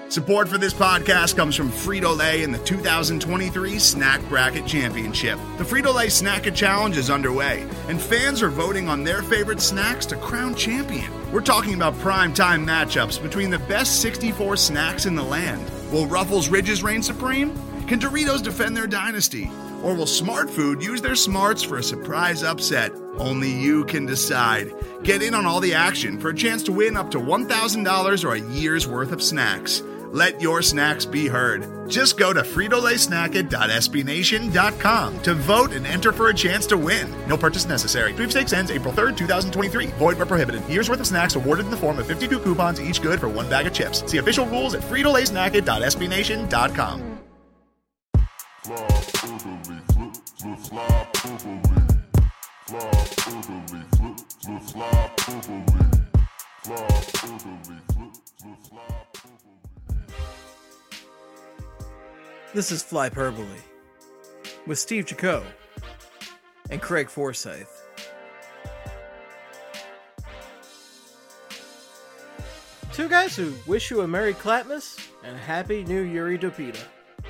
Support for this podcast comes from Frito-Lay and the 2023 Snack Bracket Championship. The Frito-Lay Snack-It Challenge is underway, and fans are voting on their favorite snacks to crown champion. We're talking about prime-time matchups between the best 64 snacks in the land. Will Ruffles Ridges reign supreme? Can Doritos defend their dynasty? Or will Smart Food use their smarts for a surprise upset? Only you can decide. Get in on all the action for a chance to win up to $1,000 or a year's worth of snacks. Let your snacks be heard. Just go to fritolaysnacket.sbnation.com to vote and enter for a chance to win. No purchase necessary. Sweepstakes ends April 3rd, 2023. Void where prohibited. Year's worth of snacks awarded in the form of 52 coupons, each good for one bag of chips. See official rules at fritolaysnacket.sbnation.com. This is Flyperbole with Steve Jaco and Craig Forsyth. Two guys who wish you a Merry Clapmas and a Happy New Yuri Dopita.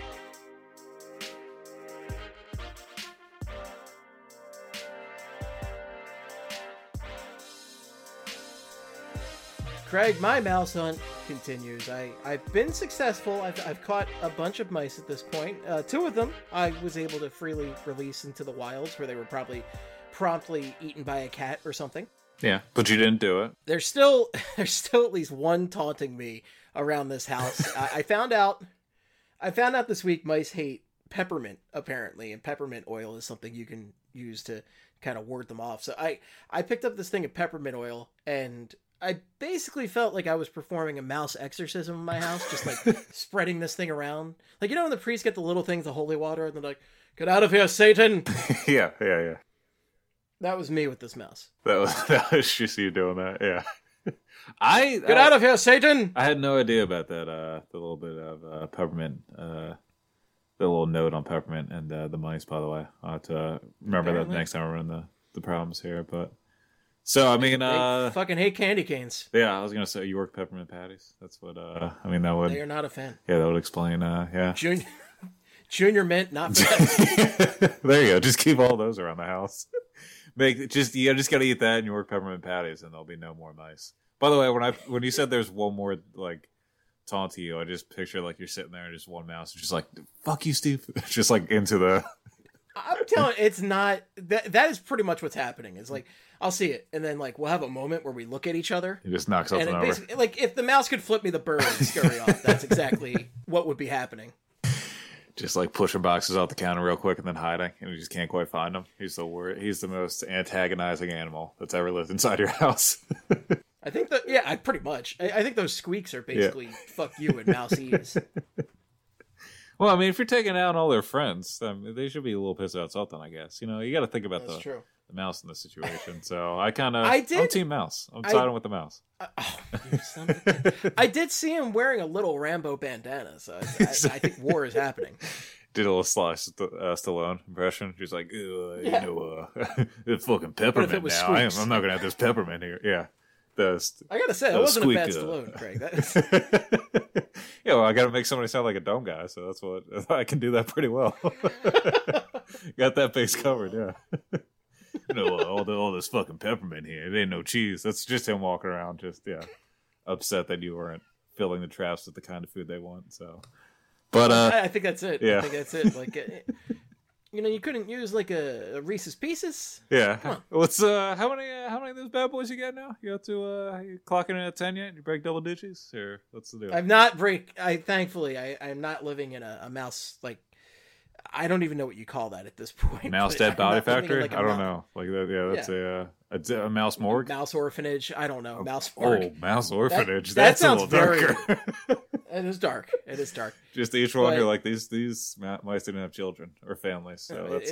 Craig, my mouse hunt continues. I've been successful. I've caught a bunch of mice at this point. Two of them I was able to freely release into the wilds where they were probably promptly eaten by a cat or something. Yeah, but you didn't do it. There's still at least one taunting me around this house. I found out this week mice hate peppermint, apparently, and peppermint oil is something you can use to kind of ward them off. So I picked up this thing of peppermint oil, and I basically felt like I was performing a mouse exorcism in my house, just like spreading this thing around. Like, you know when the priests get the little things, the holy water, and they're like, "Get out of here, Satan!" Yeah. That was me with this mouse. That was just you doing that, yeah. Get out of here, Satan! I had no idea about that, the little bit of peppermint, the little note on peppermint and the mice, by the way. I'll have to remember that next time we're in the problems here, but... So, I mean, they fucking hate candy canes. Yeah, I was going to say York peppermint patties. That's what, that would... They are not a fan. Yeah, that would explain, yeah. Junior mint, not for There you go. Just keep all those around the house. You just got to eat that and York peppermint patties, and there'll be no more mice. By the way, when you said there's one more, like, taunt to you, I just picture, like, you're sitting there and just one mouse, just like, fuck you, Steve. Just, like, into the... I'm telling you, it's not... That is pretty much what's happening. It's like... I'll see it, and then like we'll have a moment where we look at each other. He just knocks something over. Like if the mouse could flip me the bird and scurry off, that's exactly what would be happening. Just like pushing boxes off the counter real quick and then hiding, and we just can't quite find him. He's the most antagonizing animal that's ever lived inside your house. I think that pretty much. I think those squeaks are basically fuck you and mouseies. Well, I mean, if you're taking out all their friends, they should be a little pissed about something, I guess. You know, you got to think about that's true. The mouse in this situation. So I'm team mouse. I'm siding with the mouse. I did see him wearing a little Rambo bandana, so I think war is happening. Did a little Stallone impression. She's like, it's fucking peppermint now. I'm not going to have this peppermint here. Yeah. I got to say, that wasn't a bad Stallone, Craig. Yeah, well, I got to make somebody sound like a dumb guy, so that's what I can do that pretty well. Got that base covered, yeah. All this fucking peppermint here. It ain't no cheese. That's just him walking around, upset that you weren't filling the traps with the kind of food they want. So, but I think that's it. Yeah. I think that's it. Like, you couldn't use like a Reese's Pieces. Yeah. What's how many of those bad boys you got now? You got to you clocking in at 10 yet? You break double digits, or what's the deal? I'm not living in a mouse like. I don't even know what you call that at this point. Mouse dead body factory? I don't know. Like that, yeah, that's a mouse morgue? Mouse orphanage? I don't know. Mouse morgue. Oh, mouse orphanage. That sounds a little darker. It is dark. It is dark. Just each one, you're like, these mice didn't have children or families. So that's,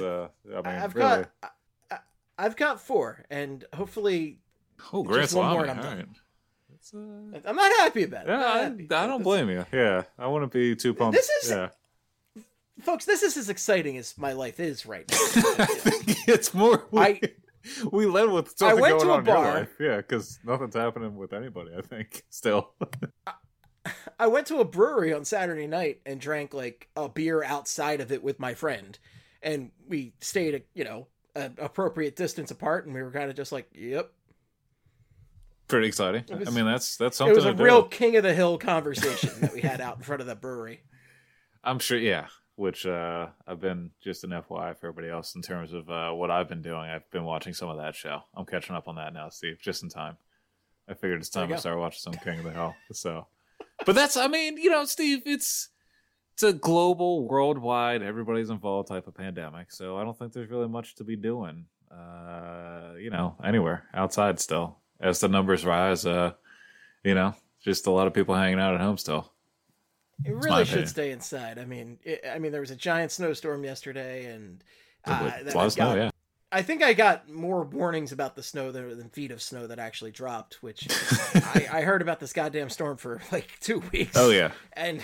I've got 4, and hopefully Grand one more Salami. and I'm All done. right. I'm not happy about it. Yeah, I don't blame you. Yeah, I wouldn't be too pumped. Folks, this is as exciting as my life is right now. It's more. We led with something going on in your life. bar. Yeah, because nothing's happening with anybody, I think, still. I went to a brewery on Saturday night and drank like a beer outside of it with my friend, and we stayed, an appropriate distance apart, and we were kind of just like, "Yep." Pretty exciting. I mean, that's something. It was a real do. king of the hill conversation that we had out in front of the brewery. I'm sure, yeah. Which I've been, just an FYI for everybody else in terms of what I've been doing. I've been watching some of that show. I'm catching up on that now, Steve, just in time. I figured it's time to start watching some King of the Hill. So, but that's, I mean, Steve, it's a global, worldwide, everybody's involved type of pandemic. So I don't think there's really much to be doing, anywhere outside still. As the numbers rise, just a lot of people hanging out at home still. It really should stay inside. I mean, there was a giant snowstorm yesterday, and a lot of snow, yeah. I think I got more warnings about the snow than feet of snow that actually dropped, which I heard about this goddamn storm for like 2 weeks. Oh, yeah. And,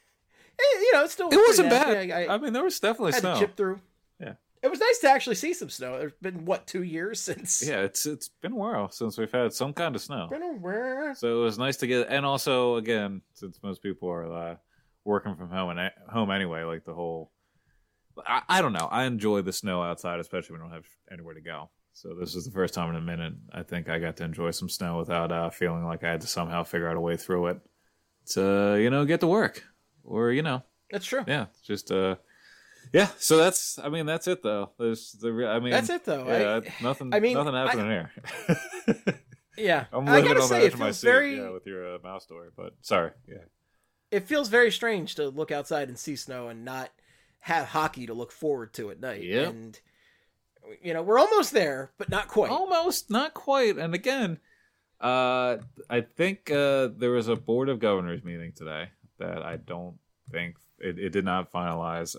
it wasn't bad. I mean, there was definitely snow. Had to chip through. Yeah. It was nice to actually see some snow. There's been, 2 years since? Yeah, it's been a while since we've had some kind of snow. Been a while. So it was nice to get, and also, again, since most people are working from home anyway, like the whole, I don't know. I enjoy the snow outside, especially when we don't have anywhere to go. So this is the first time in a minute I think I got to enjoy some snow without feeling like I had to somehow figure out a way through it to, get to work. Or, That's true. Yeah, just, yeah, so that's it though. That's it though. Yeah, nothing happening here. Yeah. I'm living on the edge of my seat with your mouse story, but sorry. Yeah. It feels very strange to look outside and see snow and not have hockey to look forward to at night. Yep. And, we're almost there, but not quite. Almost, not quite. And again, I think there was a Board of Governors meeting today that I don't think, it did not finalize,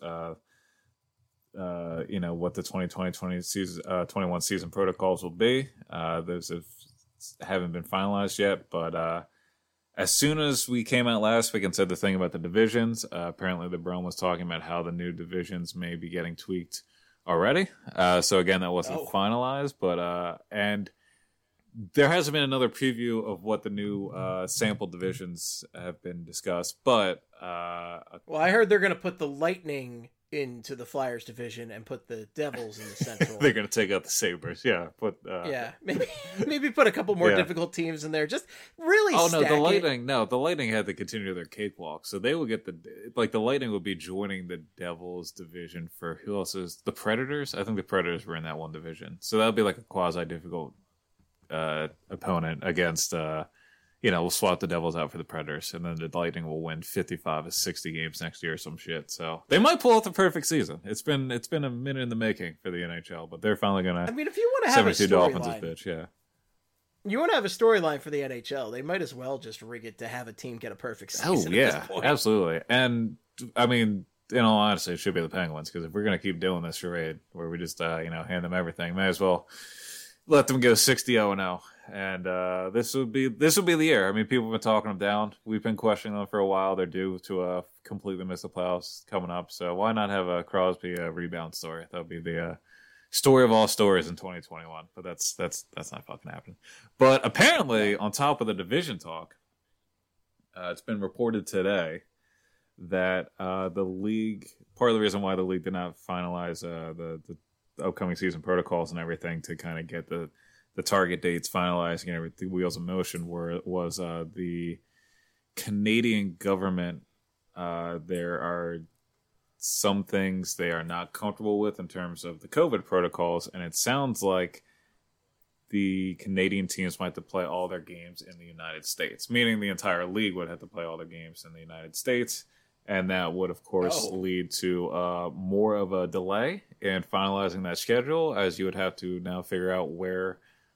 what the 2020-21 season protocols will be. Those haven't been finalized yet, but as soon as we came out last week and said the thing about the divisions, apparently the Brome was talking about how the new divisions may be getting tweaked already. So again, that wasn't finalized, but and there hasn't been another preview of what the new sample divisions have been discussed, but well, I heard they're going to put the Lightning into the Flyers division and put the Devils in the Central. They're going to take out the Sabres, yeah. Maybe put a couple more difficult teams in there. Just really. Oh no, the Lightning had to continue their cakewalk, so they will get the Lightning would be joining the Devils division for who else is the Predators? I think the Predators were in that one division, so that would be like a quasi difficult opponent against. We'll swap the Devils out for the Predators, and then the Lightning will win 55 of 60 games next year or some shit. So they might pull off the perfect season. It's been a minute in the making for the NHL, but they're finally gonna. I mean, if you want to have a storyline, bitch, yeah. You want to have a storyline for the NHL, they might as well just rig it to have a team get a perfect season. Oh yeah, at this point. Absolutely. And I mean, in all honesty, it should be the Penguins, because if we're gonna keep doing this charade where we just hand them everything, may as well let them go 60-0-0. And this would be the year. I mean, people have been talking them down. We've been questioning them for a while. They're due to completely miss the playoffs coming up. So why not have a Crosby rebound story? That would be the story of all stories in 2021. But that's not fucking happening. But apparently, on top of the division talk, it's been reported today that the league, part of the reason why the league did not finalize the upcoming season protocols and everything to kind of get the target dates finalizing and everything, wheels in motion, was the Canadian government. There are some things they are not comfortable with in terms of the COVID protocols, and it sounds like the Canadian teams might have to play all their games in the United States, meaning the entire league would have to play all their games in the United States. And that would, of course, lead to more of a delay in finalizing that schedule, as you would have to now figure out where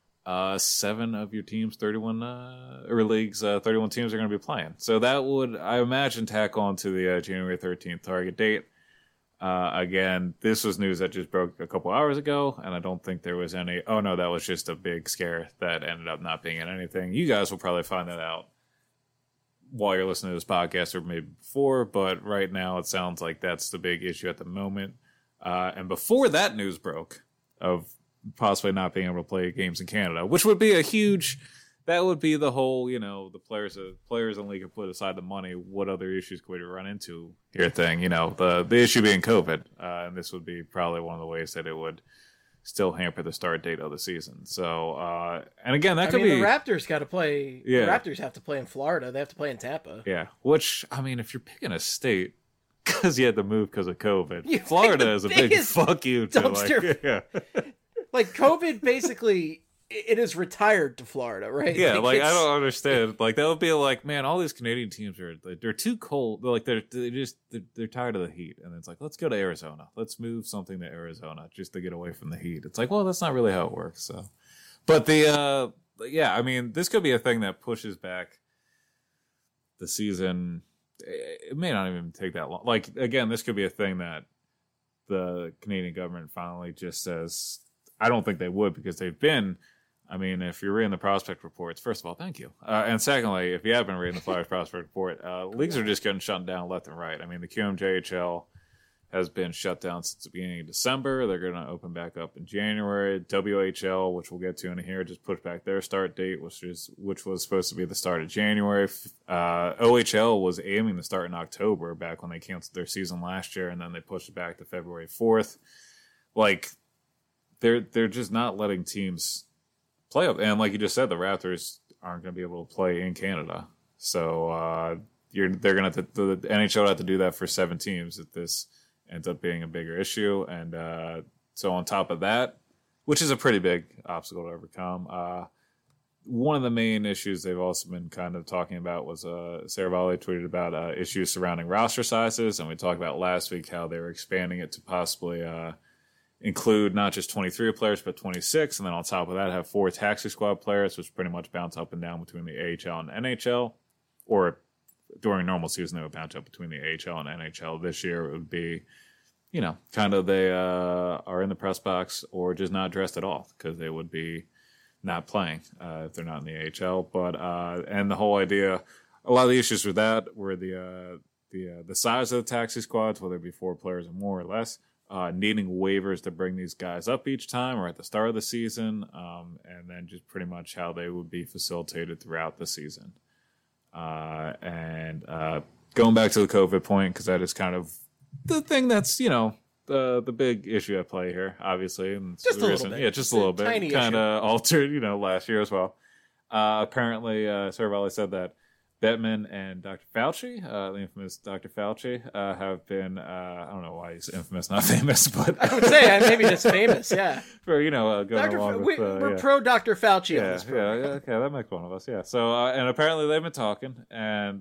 7 of your teams, 31 leagues, 31 teams are going to be playing. So that would, I imagine, tack on to the January 13th target date. Again, this was news that just broke a couple hours ago, and I don't think there was any, oh no, that was just a big scare that ended up not being in anything. You guys will probably find that out while you're listening to this podcast, or maybe before, but right now it sounds like that's the big issue at the moment. And before that news broke of possibly not being able to play games in Canada, which would be a huge that would be the whole, the players in the league have put aside the money. What other issues could we run into here thing? The issue being COVID. And this would be probably one of the ways that it would still hamper the start date of the season. So, and again, that could be... the Raptors got to play... Yeah. The Raptors have to play in Florida. They have to play in Tampa. Yeah, which, if you're picking a state, because you had to move because of COVID, You Florida is a big fuck you to. Dumpster. COVID basically... It is retired to Florida, right? Yeah, I don't understand. That would be man, all these Canadian teams they're too cold. They're tired of the heat, and it's let's go to Arizona. Let's move something to Arizona just to get away from the heat. It's well, that's not really how it works. So, but this could be a thing that pushes back the season. It may not even take that long. Again, this could be a thing that the Canadian government finally just says. I don't think they would because they've been. If you're reading the prospect reports, first of all, thank you. And secondly, if you have been reading the Flyers prospect report, leagues are just getting shut down left and right. The QMJHL has been shut down since the beginning of December. They're going to open back up in January. WHL, which we'll get to in here, just pushed back their start date, which was supposed to be the start of January. OHL was aiming to start in October, back when they canceled their season last year, and then they pushed it back to February 4th. They're just not letting teams play up, and like you just said, the Raptors aren't going to be able to play in Canada, so they're going to the NHL will have to do that for 7 teams if this ends up being a bigger issue, and so on top of that, which is a pretty big obstacle to overcome. One of the main issues they've also been kind of talking about was Sarah Volley tweeted about issues surrounding roster sizes, and we talked about last week how they were expanding it to possibly include not just 23 players, but 26. And then on top of that, have 4 taxi squad players, which pretty much bounce up and down between the AHL and NHL. Or during normal season, they would bounce up between the AHL and NHL. This year, it would be, kind of they are in the press box or just not dressed at all because they would be not playing if they're not in the AHL. But, and the whole idea, a lot of the issues with that were the size of the taxi squads, whether it be 4 players or more or less. Needing waivers to bring these guys up each time or at the start of the season, and then just pretty much how they would be facilitated throughout the season. And going back to the COVID point, because that is kind of the thing that's, the big issue at play here, obviously. And just a little bit. Yeah, just a little bit. Kind of altered, last year as well. Apparently, Sarah Volley said that Bettman and Dr. Fauci, the infamous Dr. Fauci, have been, I don't know why he's infamous, not famous, but... I would say maybe just famous, yeah. For, going along with... We're pro Dr. Fauci on this program. Yeah, okay, that makes one of us, yeah. So, and apparently they've been talking, and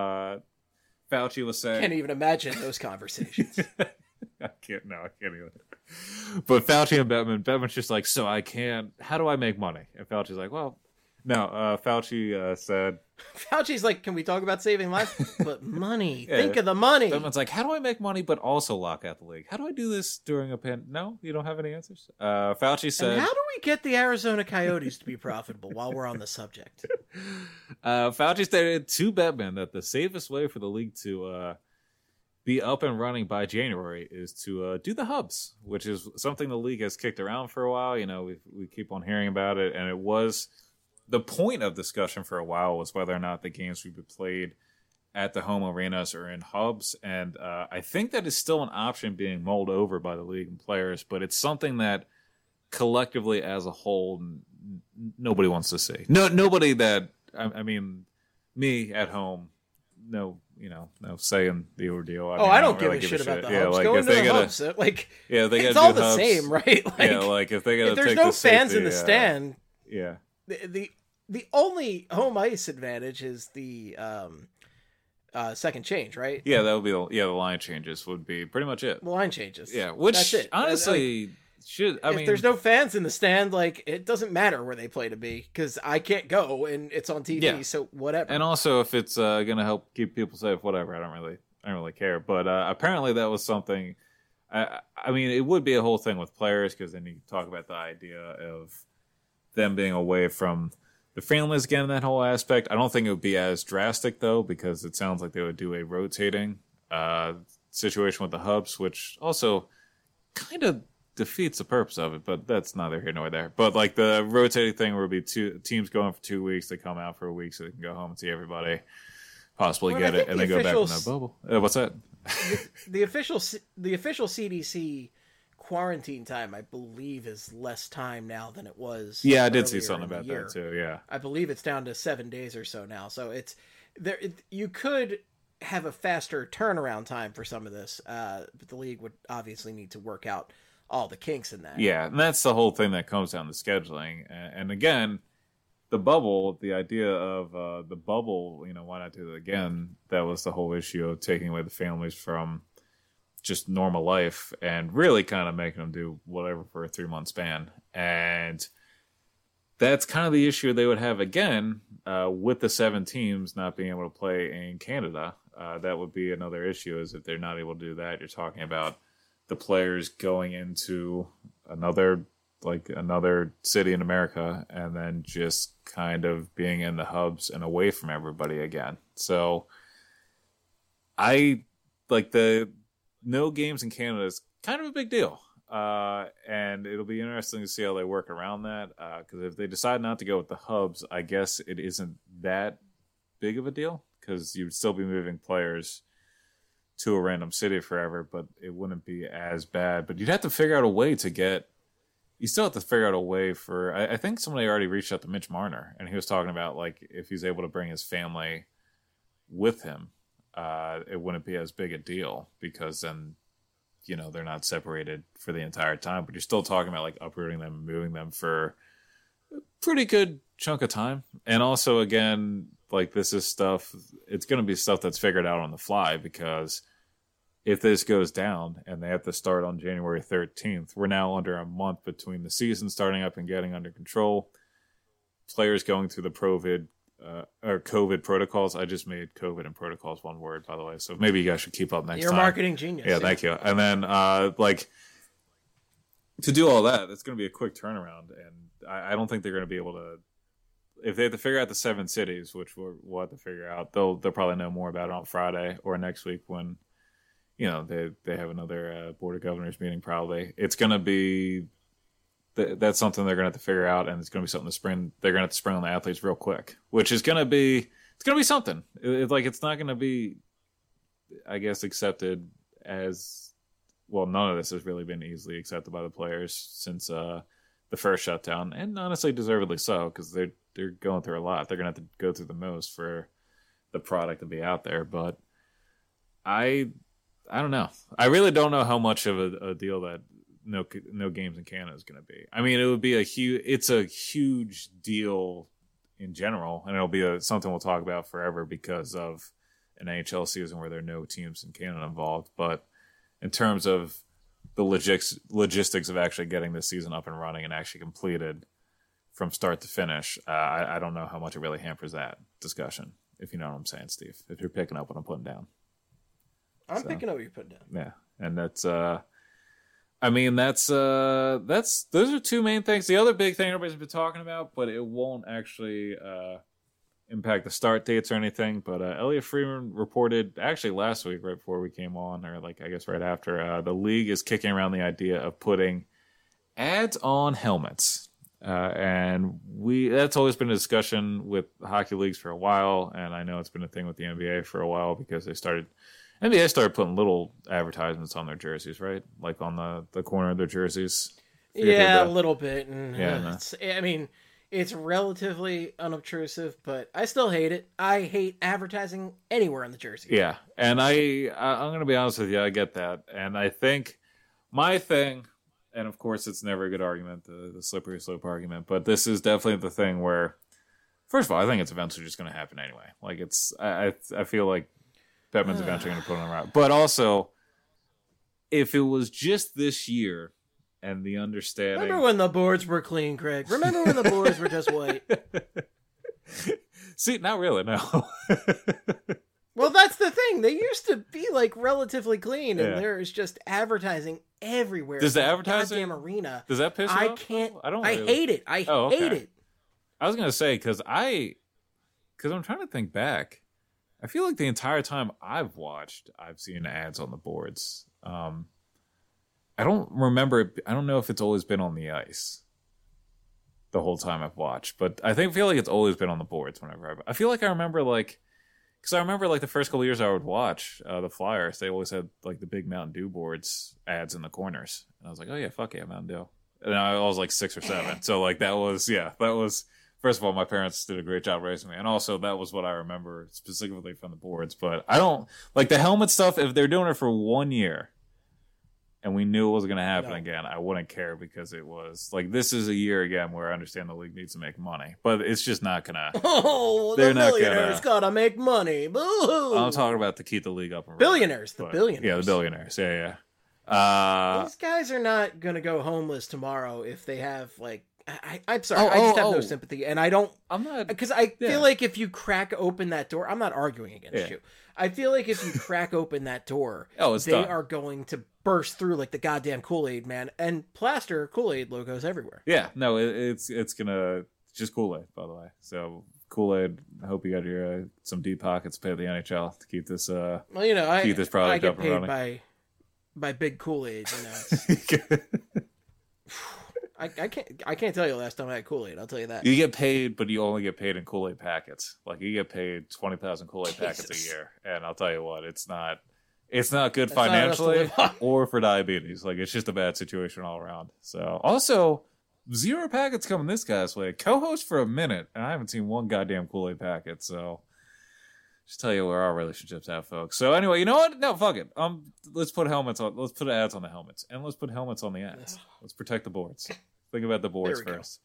Fauci was saying... Can't even imagine those conversations. I can't even. But Fauci and Bettman's just so how do I make money? And Fauci's well... No, Fauci said... Fauci's can we talk about saving lives? But money. Yeah. Think of the money. Someone's how do I make money but also lock out the league? How do I do this during a pandemic? No? You don't have any answers? Fauci said... And how do we get the Arizona Coyotes to be profitable while we're on the subject? Fauci stated to Bettman that the safest way for the league to be up and running by January is to do the hubs, which is something the league has kicked around for a while. We keep on hearing about it, and it was... The point of discussion for a while was whether or not the games would be played at the home arenas or in hubs. And I think that is still an option being mulled over by the league and players, but it's something that collectively as a whole, nobody wants to see. No, nobody that, me at home, no say in the ordeal. I don't give a shit about the hubs. Go into the hubs. It's all the same, right? If they gotta if there's take no the fans safety, in the stand, yeah. The only home ice advantage is the second change, right? Yeah, that would be the line changes would be pretty much it. The line changes. Yeah, which that's it. Honestly if there's no fans in the stand, it doesn't matter where they play to be because I can't go and it's on TV, so whatever. And also, if it's going to help keep people safe, whatever, I don't really care. But apparently, that was something. It would be a whole thing with players because then you talk about the idea of them being away from the families again, that whole aspect. I don't think it would be as drastic though, because it sounds like they would do a rotating situation with the hubs, which also kind of defeats the purpose of it, but that's neither here nor there. But like the rotating thing where it'll be two teams going for 2 weeks, they come out for a week so they can go home and see everybody, possibly get it, and they go back in the bubble. What's that? The official CDC quarantine time, I believe, is less time now than it was. Yeah, I did see something about that too. Yeah, I believe it's down to 7 days or so now. So it's there. You could have a faster turnaround time for some of this, but the league would obviously need to work out all the kinks in that. Yeah, and that's the whole thing that comes down to scheduling. And again, the bubble, the idea of the bubble, why not do it again? That was the whole issue of taking away the families from just normal life and really kind of making them do whatever for a 3-month span. And that's kind of the issue they would have again with the 7 teams not being able to play in Canada. That would be another issue, is if they're not able to do that, you're talking about the players going into another city in America and then just kind of being in the hubs and away from everybody again. So I like the no games in Canada is kind of a big deal. And it'll be interesting to see how they work around that. Because if they decide not to go with the hubs, I guess it isn't that big of a deal, because you'd still be moving players to a random city forever, but it wouldn't be as bad. But you'd have to figure out a way to get. You still have to figure out a way for. I think somebody already reached out to Mitch Marner, and he was talking about like if he's able to bring his family with him, it wouldn't be as big a deal, because then they're not separated for the entire time. But you're still talking about like uprooting them and moving them for a pretty good chunk of time. And also, again, like this is stuff. It's going to be stuff that's figured out on the fly, because if this goes down and they have to start on January 13th, we're now under a month between the season starting up and getting under control. Players going through the COVID protocols. I just made COVID and protocols one word, by the way. So maybe you guys should keep up next time. You're a marketing genius. Yeah, thank you. And then, to do all that, it's going to be a quick turnaround. And I don't think they're going to be able to. If they have to figure out the 7 cities, which we'll have to figure out, they'll probably know more about it on Friday or next week when they have another board of governors meeting. Probably it's going to be that's something they're going to have to figure out, and it's going to be something they're going to have to spring on the athletes real quick, which is going to be something. It's not going to be, I guess, accepted as well. None of this has really been easily accepted by the players since the first shutdown, and honestly, deservedly so, because they're going through a lot. They're going to have to go through the most for the product to be out there. But I don't know. I really don't know how much of a deal that no games in Canada is going to be. I mean, it would be it's a huge deal in general, and it'll be something we'll talk about forever because of an NHL season where there are no teams in Canada involved. But in terms of the logistics of actually getting this season up and running and actually completed from start to finish, I don't know how much it really hampers that discussion, if you know what I'm saying, Steve, if you're picking up what I'm putting down. I'm picking up what you're putting down. Yeah. And that's those are 2 main things. The other big thing everybody's been talking about, but it won't actually impact the start dates or anything. But Elliot Friedman reported actually last week, right before we came on, or I guess right after, the league is kicking around the idea of putting ads on helmets. And that's always been a discussion with hockey leagues for a while. And I know it's been a thing with the NBA for a while, because NBA started putting little advertisements on their jerseys, right? Like on the corner of their jerseys. Yeah, a little bit. And yeah, I mean, it's relatively unobtrusive, but I still hate it. I hate advertising anywhere on the jersey. Yeah, and I'm going to be honest with you, I get that. And I think my thing, and of course it's never a good argument, the slippery slope argument, but this is definitely the thing where, first of all, I think it's eventually just going to happen anyway. Like I feel like Bettman's eventually going to put it on the route. But also, if it was just this year and the understanding... Remember when the boards were clean, Craig? Remember when the boards were just white? See, not really, no. Well, that's the thing. They used to be relatively clean, and there's just advertising everywhere. Does the advertising... Goddamn arena. Does that piss you off? I hate it. I hate it. I was going to say, because I'm trying to think back. I feel like the entire time I've watched, I've seen ads on the boards. I don't remember. I don't know if it's always been on the ice the whole time I've watched, but I feel like it's always been on the boards whenever I feel like I remember because I remember the first couple of years I would watch the Flyers, they always had the big Mountain Dew boards ads in the corners, and I was like, oh yeah, fuck yeah, Mountain Dew. And I was 6 or 7, so that was first of all, my parents did a great job raising me, and also that was what I remember specifically from the boards. But I don't the helmet stuff. If they're doing it for 1 year, and we knew it was going to happen again, I wouldn't care, because it was this is a year again where I understand the league needs to make money, but it's just not going to. Oh, the millionaires gotta make money. Boo-hoo. I'm talking about to keep the league up and billionaires, running, billionaires. Yeah, the billionaires. Yeah. These guys are not going to go homeless tomorrow if they have I'm sorry, I just have no sympathy, and I don't. I'm not, because I feel like if you crack open that door, I'm not arguing against you. I feel like if you crack open that door, they are going to burst through like the goddamn Kool-Aid man and plaster Kool-Aid logos everywhere. Yeah, no, it's gonna just Kool-Aid, by the way. So Kool-Aid, I hope you got your some deep pockets to pay the NHL to keep this. Keep this product up and running. I get paid by big Kool-Aid. I can't tell you the last time I had Kool-Aid. I'll tell you that. You get paid, but you only get paid in Kool-Aid packets. You get paid 20,000 Kool-Aid packets a year, and I'll tell you what, it's not good financially or for diabetes. It's just a bad situation all around. So also, 0 packets coming this guy's way. Co-host for a minute, and I haven't seen one goddamn Kool-Aid packet. So just tell you where our relationship's at, folks. So anyway, you know what? No, fuck it. Let's put helmets on. Let's put ads on the helmets, and let's put helmets on the ads. Let's protect the boards. Think about the boards first.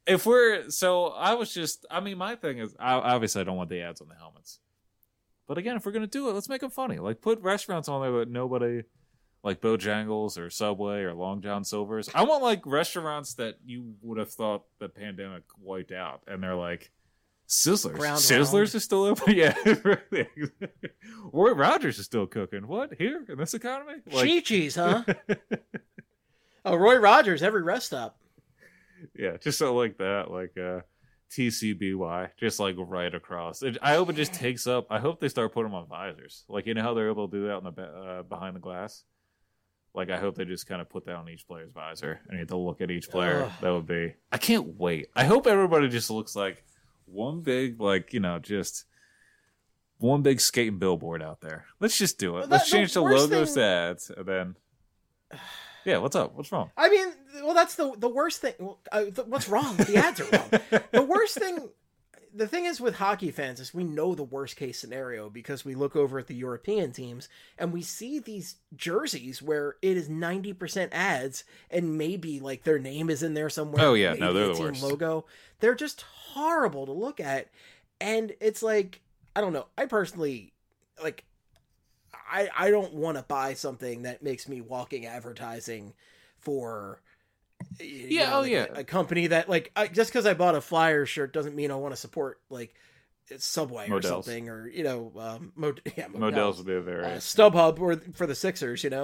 My thing is, obviously I don't want the ads on the helmets. But again, if we're going to do it, let's make them funny. Put restaurants on there that nobody, Bojangles or Subway or Long John Silver's. I want, restaurants that you would have thought the pandemic wiped out. And they're Sizzlers. Sizzlers is still open? Yeah. Roy Rogers is still cooking. What? Here? In this economy? Chi-Chi's, huh? Oh, Roy Rogers, every rest stop. Yeah, just so that, TCBY, just right across. I hope it just takes up. I hope they start putting them on visors. You know how they're able to do that on the behind the glass? I hope they just kind of put that on each player's visor and you have to look at each player. That would be. I can't wait. I hope everybody just looks like one big, just one big skating billboard out there. Let's just do it. Let's change the logos to ads, and then. Yeah, what's up? What's wrong? I mean, that's the worst thing. What's wrong? The ads are wrong. The worst thing, the thing is with hockey fans is we know the worst case scenario because we look over at the European teams and we see these jerseys where it is 90% ads and maybe their name is in there somewhere. Oh yeah, no, they're the worst. Logo. They're just horrible to look at, and it's I don't know. I personally I don't want to buy something that makes me walking advertising for a company that just because I bought a Flyers shirt doesn't mean I want to support Subway Models. Or something, or Models would be a very StubHub or for the Sixers, I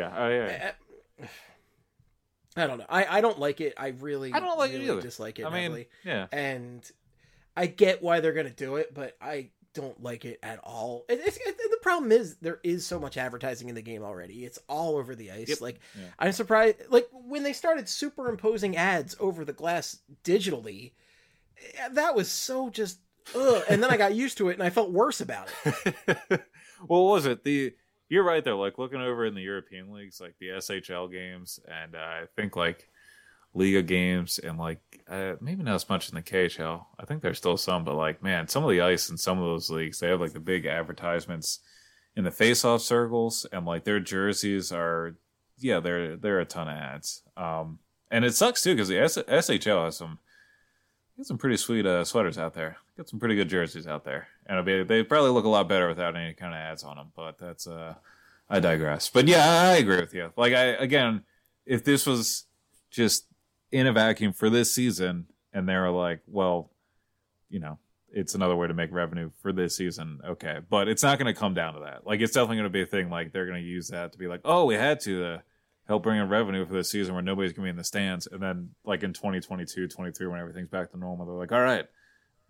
don't know. I don't like it. I don't like it either. Dislike it. Heavily. And I get why they're gonna do it, but I don't like it at all. The problem is there is so much advertising in the game already. It's all over the ice. Yep. I'm surprised. When they started superimposing ads over the glass digitally, that was so just ugh. And then I got used to it and I felt worse about it. Well, what was it? You're right there. Looking over in the European leagues, the SHL games, and I think Liga games, and maybe not as much in the KHL. I think there's still some, but man, some of the ice in some of those leagues, they have the big advertisements in the face-off circles, and their jerseys are, they're a ton of ads. And it sucks too because the SHL has some pretty sweet sweaters out there. Got some pretty good jerseys out there, and they probably look a lot better without any kind of ads on them. But that's I digress. But yeah, I agree with you. If this was just in a vacuum for this season, and they were well, it's another way to make revenue for this season. Okay. But it's not going to come down to that. It's definitely going to be a thing. They're going to use that to be oh, we had to help bring in revenue for this season where nobody's going to be in the stands. And then in 2022, 23, when everything's back to normal, they're all right,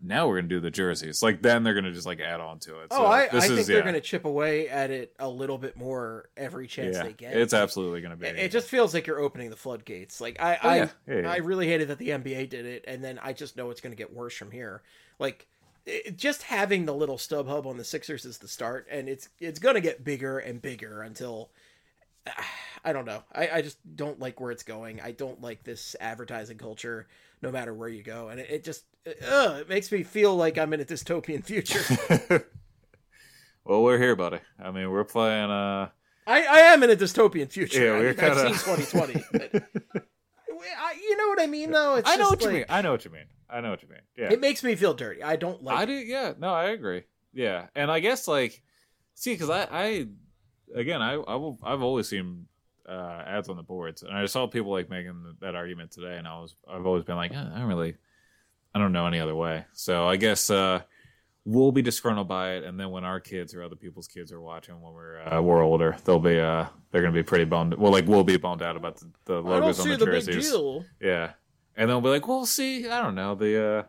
now we're gonna do the jerseys. Like then they're gonna just like add on to it. Oh, so I think they're gonna chip away at it a little bit more every chance they get. It's absolutely gonna be. It just feels like you're opening the floodgates. Like I really hated that the NBA did it, and then I just know it's gonna get worse from here. Like just having the little stub hub on the Sixers is the start, and it's gonna get bigger and bigger until. I don't know. I just don't like where it's going. I don't like this advertising culture, no matter where you go, and it just it makes me feel like I'm in a dystopian future. Well, we're here, buddy. I mean, we're playing. I am in a dystopian future. Yeah, we're kind of. I've seen 2020. But, you know what I mean, though. It's I know just what you mean. I know what you mean. Yeah. It makes me feel dirty. I don't like. I do. Yeah. No, I agree. Yeah, and I guess like, see, because I've always seen ads on the boards, and I saw people like making that argument today, and I've always been like, I don't know any other way. So I guess we'll be disgruntled by it, and then when our kids or other people's kids are watching when we're older, they're gonna be pretty bummed. Well, like we'll be bummed out about the logos on the jerseys. Big deal. Yeah, and they'll be like, well, see, I don't know the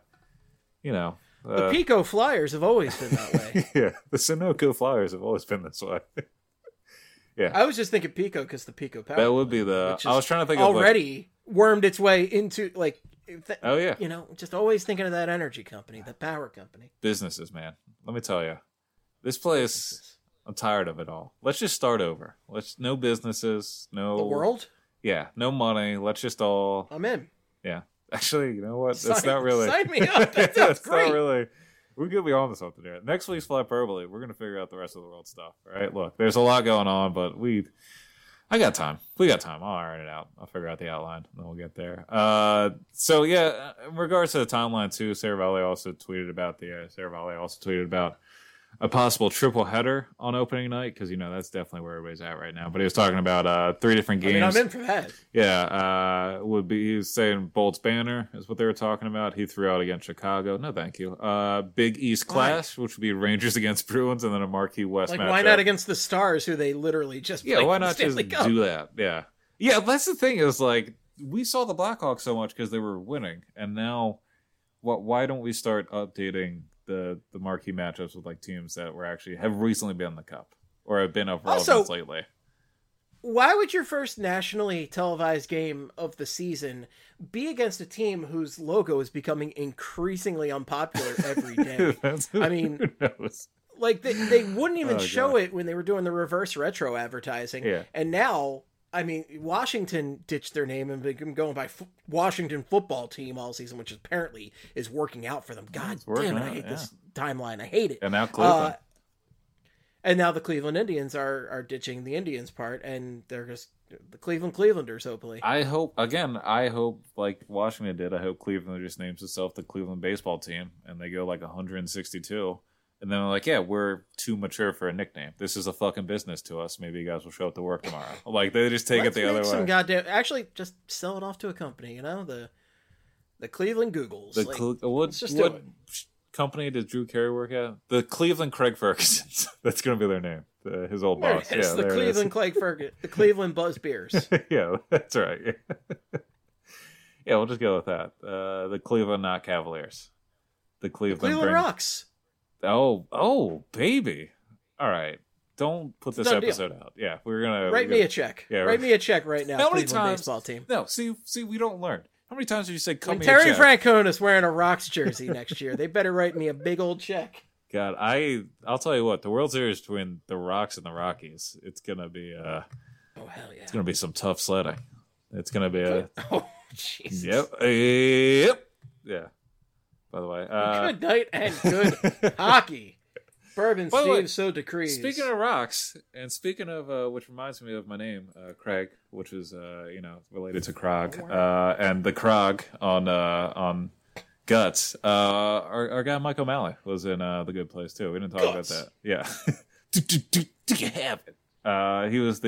the Pico Flyers have always been that way. Yeah, the Sunoco Flyers have always been this way. Yeah, I was just thinking Pico because the Pico Power. That would be the. I was trying to think already wormed its way into like. Oh yeah, just always thinking of that energy company, the power company. Businesses, man. Let me tell you, this place. I'm tired of it all. Let's just start over. No businesses, no the world. Yeah, no money. Let's just all. I'm in. Yeah, actually, you know what? That's not really. Sign me up. That sounds great. Not really. We're gonna be on to something here. Next week's Flyperbole, we're gonna figure out the rest of the world stuff. Right? Look, there's a lot going on, but I got time. We got time. I'll iron it out. I'll figure out the outline, and then we'll get there. So yeah, in regards to the timeline too, Saravalli also tweeted about a possible triple header on opening night because that's definitely where everybody's at right now. But he was talking about 3 different games. I'm in for that. Yeah, he was saying Bolts Banner is what they were talking about. He threw out against Chicago. No, thank you. Big East Clash, which would be Rangers against Bruins, and then a Marquee West matchup. Why not against the Stars, who they literally just played why not just do that? Yeah. That's the thing is like we saw the Blackhawks so much because they were winning, and now why don't we start updating the marquee matchups with like teams that have recently been in the cup or have been of relevance lately? Why would your first nationally televised game of the season be against a team whose logo is becoming increasingly unpopular every day? I mean, who knows? Like they wouldn't even show it when they were doing the reverse retro advertising. Yeah. And now, I mean, Washington ditched their name and been going by Washington Football Team all season, which apparently is working out for them. God damn it, I hate this timeline. I hate it. And now Cleveland. And now the Cleveland Indians are ditching the Indians part, and they're just the Clevelanders, hopefully. I hope, like Washington did, I hope Cleveland just names itself the Cleveland Baseball Team, and they go like 162. And then they're like, yeah, we're too mature for a nickname. This is a fucking business to us. Maybe you guys will show up to work tomorrow. Like, they just take it the other way. Actually, just sell it off to a company, the Cleveland Googles. What company did Drew Carey work at? The Cleveland Craig Fergusons. That's going to be their name. His old boss. Yeah, the Cleveland Craig Ferguson. The Cleveland Buzz Beers. Yeah, that's right. Yeah, we'll just go with that. The Cleveland Not Cavaliers. The Cleveland Rocks. Oh, baby. All right. Don't put this episode out. Yeah, we're going to... Write me a check. Yeah, write me a check right now. How many times... Baseball team. No, see, we don't learn. How many times have you said, come here, Terry Francona's wearing a Rocks jersey next year. They better write me a big old check. God, I'll tell you what. The World Series between the Rocks and the Rockies, it's going to be... oh, hell yeah. It's going to be some tough sledding. It's going to be a... Oh, Jesus. Yep. Yeah. By the way, good night and good hockey. Bourbon Steve so decrees. Speaking of Rocks, and speaking of which reminds me of my name, Craig, which is related to Krog, and the Krog on Guts. Our guy Mike O'Malley was in The Good Place too. We didn't talk about that. Yeah. Do you have it? He was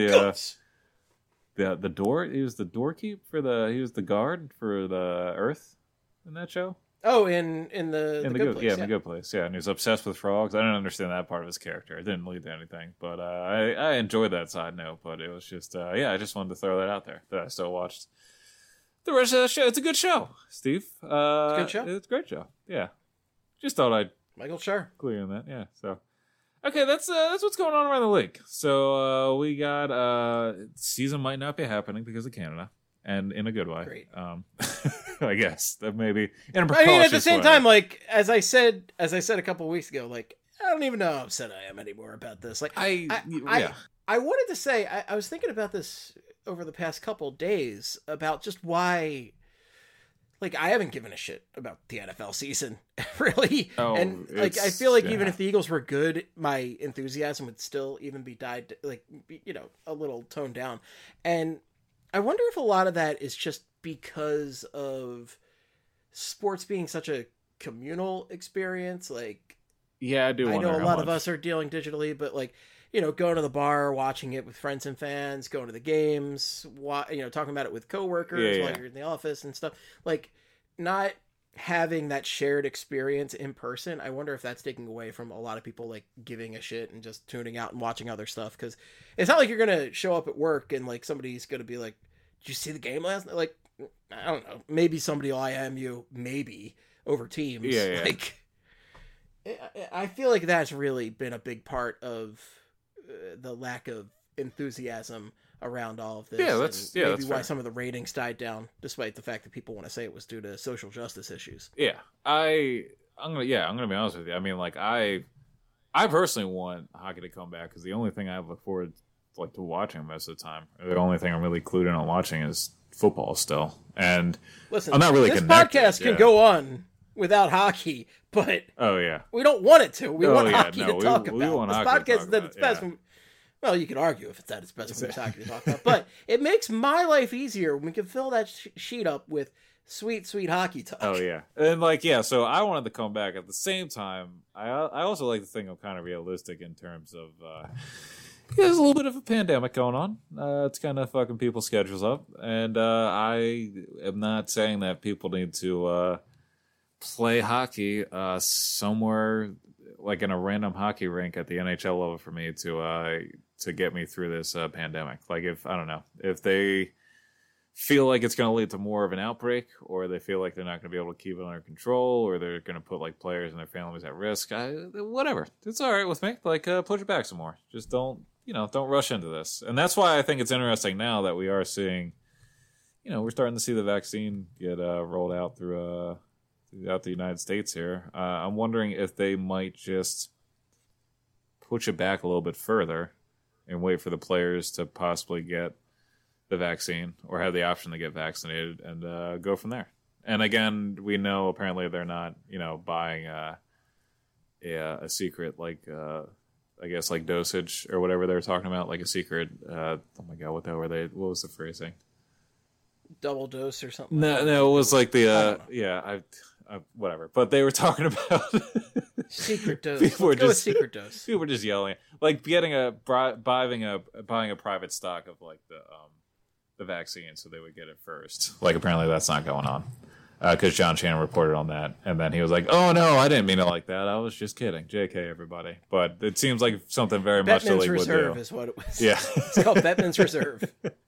the door. He was the doorkeep for he was the guard for the Earth in that show. Oh, in the Good Place. Yeah, in The Good Place. Yeah, and he was obsessed with frogs. I didn't understand that part of his character. It didn't lead to anything, but I enjoyed that side note. But it was just, I just wanted to throw that out there. That I still watched the rest of the show. It's a good show, Steve. It's a good show. It's a great show. Yeah. just thought I'd Michael Schur. clear on that. Yeah. So, okay, that's what's going on around the league. So we got season might not be happening because of Canada, and in a good way. Great. I guess that maybe in a I precautious mean, at the same way. time, like as I said a couple of weeks ago, like I don't even know how upset I am anymore about this. Like yeah. I wanted to say I was thinking about this over the past couple of days about just why. Like, I haven't given a shit about the NFL season, really. Oh, and, like, I feel like even yeah. if the Eagles were good, my enthusiasm would still even be a little toned down. And I wonder if a lot of that is just because of sports being such a communal experience. Like, Yeah, I do I wonder know a how lot of much. us are dealing digitally, but, like, going to the bar, watching it with friends and fans, going to the games, talking about it with coworkers while you're in the office and stuff. Like, not having that shared experience in person, I wonder if that's taking away from a lot of people, like, giving a shit and just tuning out and watching other stuff. Because it's not like you're going to show up at work and, like, somebody's going to be like, did you see the game last night? Like, I don't know. Maybe somebody will IM you, maybe, over Teams. Yeah. Like, I feel like that's really been a big part of the lack of enthusiasm around all of this. Yeah, that's maybe why fair. some of the ratings died down, despite the fact that people want to say it was due to social justice issues. Yeah, I'm gonna be honest with you. I mean, like I personally want hockey to come back because the only thing I look forward to watching most of the time, or the only thing I'm really clued in on watching is football still. And Listen, I'm not really this connected, podcast can yeah. go on without hockey, but Oh yeah, we don't want it to. We want yeah, hockey no, to we- talk we about. want This hockey to podcast talk is at about, its best. yeah. Well, you could argue if it's at its best when there's hockey to talk about, but it makes my life easier when we can fill that sheet up with sweet, sweet hockey talk. Oh yeah, and so I wanted to come back at the same time. I also like to think I'm kind of realistic in terms of there's a little bit of a pandemic going on. It's kind of fucking people's schedules up, and I am not saying that people need to play hockey somewhere like in a random hockey rink at the NHL level for me to get me through this pandemic. Like if they feel like it's going to lead to more of an outbreak, or they feel like they're not going to be able to keep it under control, or they're going to put like players and their families at risk, whatever. It's all right with me. Like push it back some more. Just don't rush into this. And that's why I think it's interesting now that we are seeing, we're starting to see the vaccine get rolled out throughout the United States here. I'm wondering if they might just push it back a little bit further and wait for the players to possibly get the vaccine or have the option to get vaccinated and go from there. And again, we know apparently they're not, buying a secret I guess like dosage or whatever they were talking about, like a secret. Oh my god, what was the phrasing? Double dose or something. No, it was like the whatever. But they were talking about secret dose. People Let's go with secret dose. People were just yelling, like buying a private stock of like the vaccine, so they would get it first. Like apparently that's not going on because John Shannon reported on that, and then he was like, "Oh no, I didn't mean it like that. I was just kidding." JK, everybody. But it seems like something very much the Bettman's league would Reserve do. is what it was. Yeah, It's called Bettman's Reserve.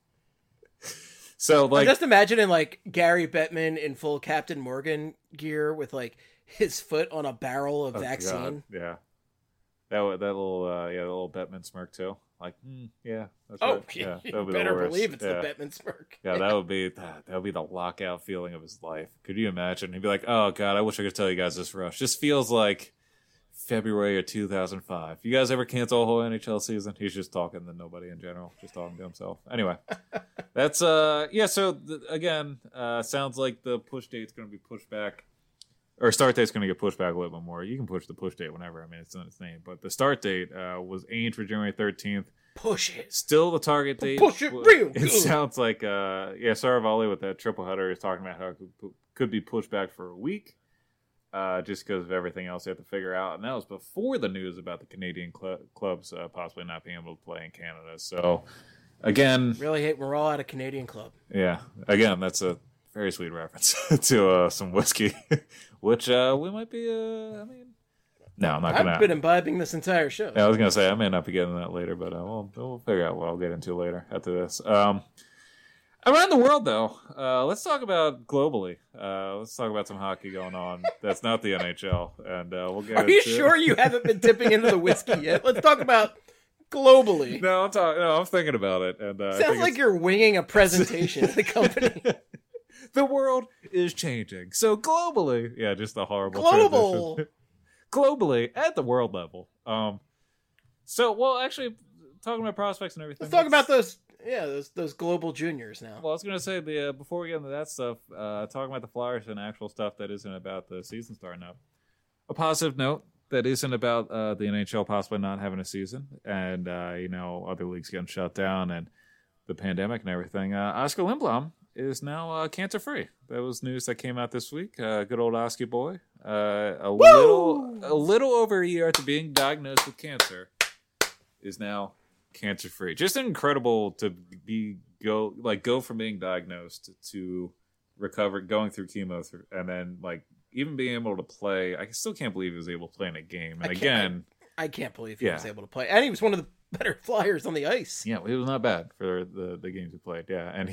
So like, I'm just imagining like Gary Bettman in full Captain Morgan gear with like his foot on a barrel of vaccine. God, yeah, that little Bettman smirk too. Like, yeah, that's right. Yeah, you that would be better the worst. believe it's Yeah. the Bettman smirk. Yeah, that would be the lockout feeling of his life. Could you imagine? He'd be like, "Oh God, I wish I could tell you guys this rush. Just feels like February of 2005. You guys ever cancel a whole NHL season?" He's just talking to nobody in general, just talking to himself. Anyway, that's yeah. So again, sounds like the push date's going to be pushed back, or start date's going to get pushed back a little bit more. You can push the push date whenever. I mean, it's not its name, but the start date was aimed for January 13th. Push it. Still the target date. Push it real It good. sounds like Saravalli with that triple header is talking about how it could be pushed back for a week, just because of everything else they have to figure out. And that was before the news about the Canadian clubs possibly not being able to play in Canada. So again, Really hate we're all at a Canadian club. yeah, again, that's a very sweet reference to some whiskey, which we might be. I mean, no, I'm not gonna. I've been imbibing this entire show. Yeah, I was gonna say I may not be getting that later, but we'll figure out what I'll get into later after this. Around the world, though, let's talk about globally. Let's talk about some hockey going on. That's not the NHL, and we'll get. Are you sure you haven't been dipping into the whiskey yet? Let's talk about globally. No, I'm thinking about it, and sounds like you're winging a presentation at the company. The world is changing, so globally, yeah, just a horrible global transition. Globally at the world level. So, well, actually, talking about prospects and everything. Let's talk about those global juniors now. Well, I was going to say before we get into that stuff, talking about the Flyers and actual stuff that isn't about the season starting up. A positive note that isn't about the NHL possibly not having a season and other leagues getting shut down and the pandemic and everything. Oscar Lindblom is now cancer free. That was news that came out this week. Good old Oski boy. A little over a year after being diagnosed with cancer, is now cancer free. Just incredible to go from being diagnosed to recover, going through chemo, and then even being able to play. I still can't believe he was able to play in a game. And I can't believe he was able to play. And he was one of the better Flyers on the ice. Yeah, he was not bad for the games he played. Yeah, and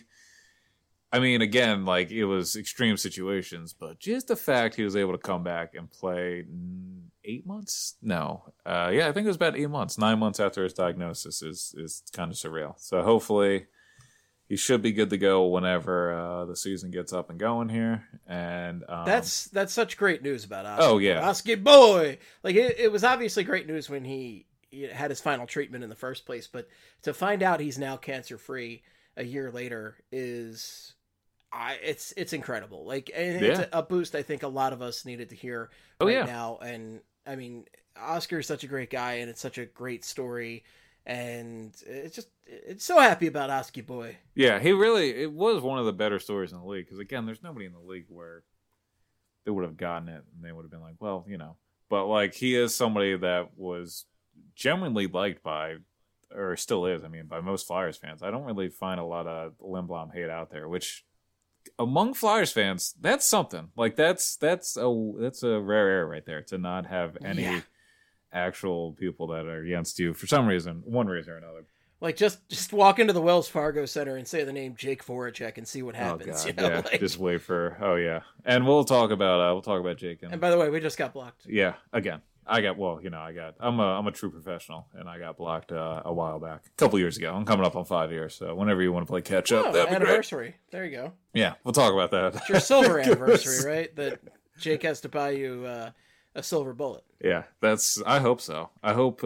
it was extreme situations, but just the fact he was able to come back and play 8 months? No. I think it was about 8 months, 9 months after his diagnosis is kind of surreal. So hopefully he should be good to go whenever the season gets up and going here. And that's such great news about Oski. Oh, yeah. Oski boy! It was obviously great news when he had his final treatment in the first place, but to find out he's now cancer-free a year later is... it's incredible. It's a boost I think a lot of us needed to hear now. And I mean, Oscar's such a great guy, and it's such a great story, and it's so happy about Oski boy. Yeah, it was one of the better stories in the league because again, there's nobody in the league where they would have gotten it and they would have been like, well, but he is somebody that was genuinely liked by, or still is, by most Flyers fans. I don't really find a lot of Lindblom hate out there, which among Flyers fans, that's something. That's a rare air right there, to not have any actual people that are against you for some reason, one reason or another. Just walk into the Wells Fargo Center and say the name Jake Voracek and see what happens. Oh God, just wait for. Oh yeah, and we'll talk about Jake. And by the way, we just got blocked. Yeah, again. I'm a true professional, and I got blocked a while back, a couple years ago. I'm coming up on 5 years, so whenever you want to play catch up, that'd be anniversary. Great. There you go. Yeah, we'll talk about that. It's your silver anniversary, right? That Jake has to buy you a silver bullet. Yeah, I hope so. I hope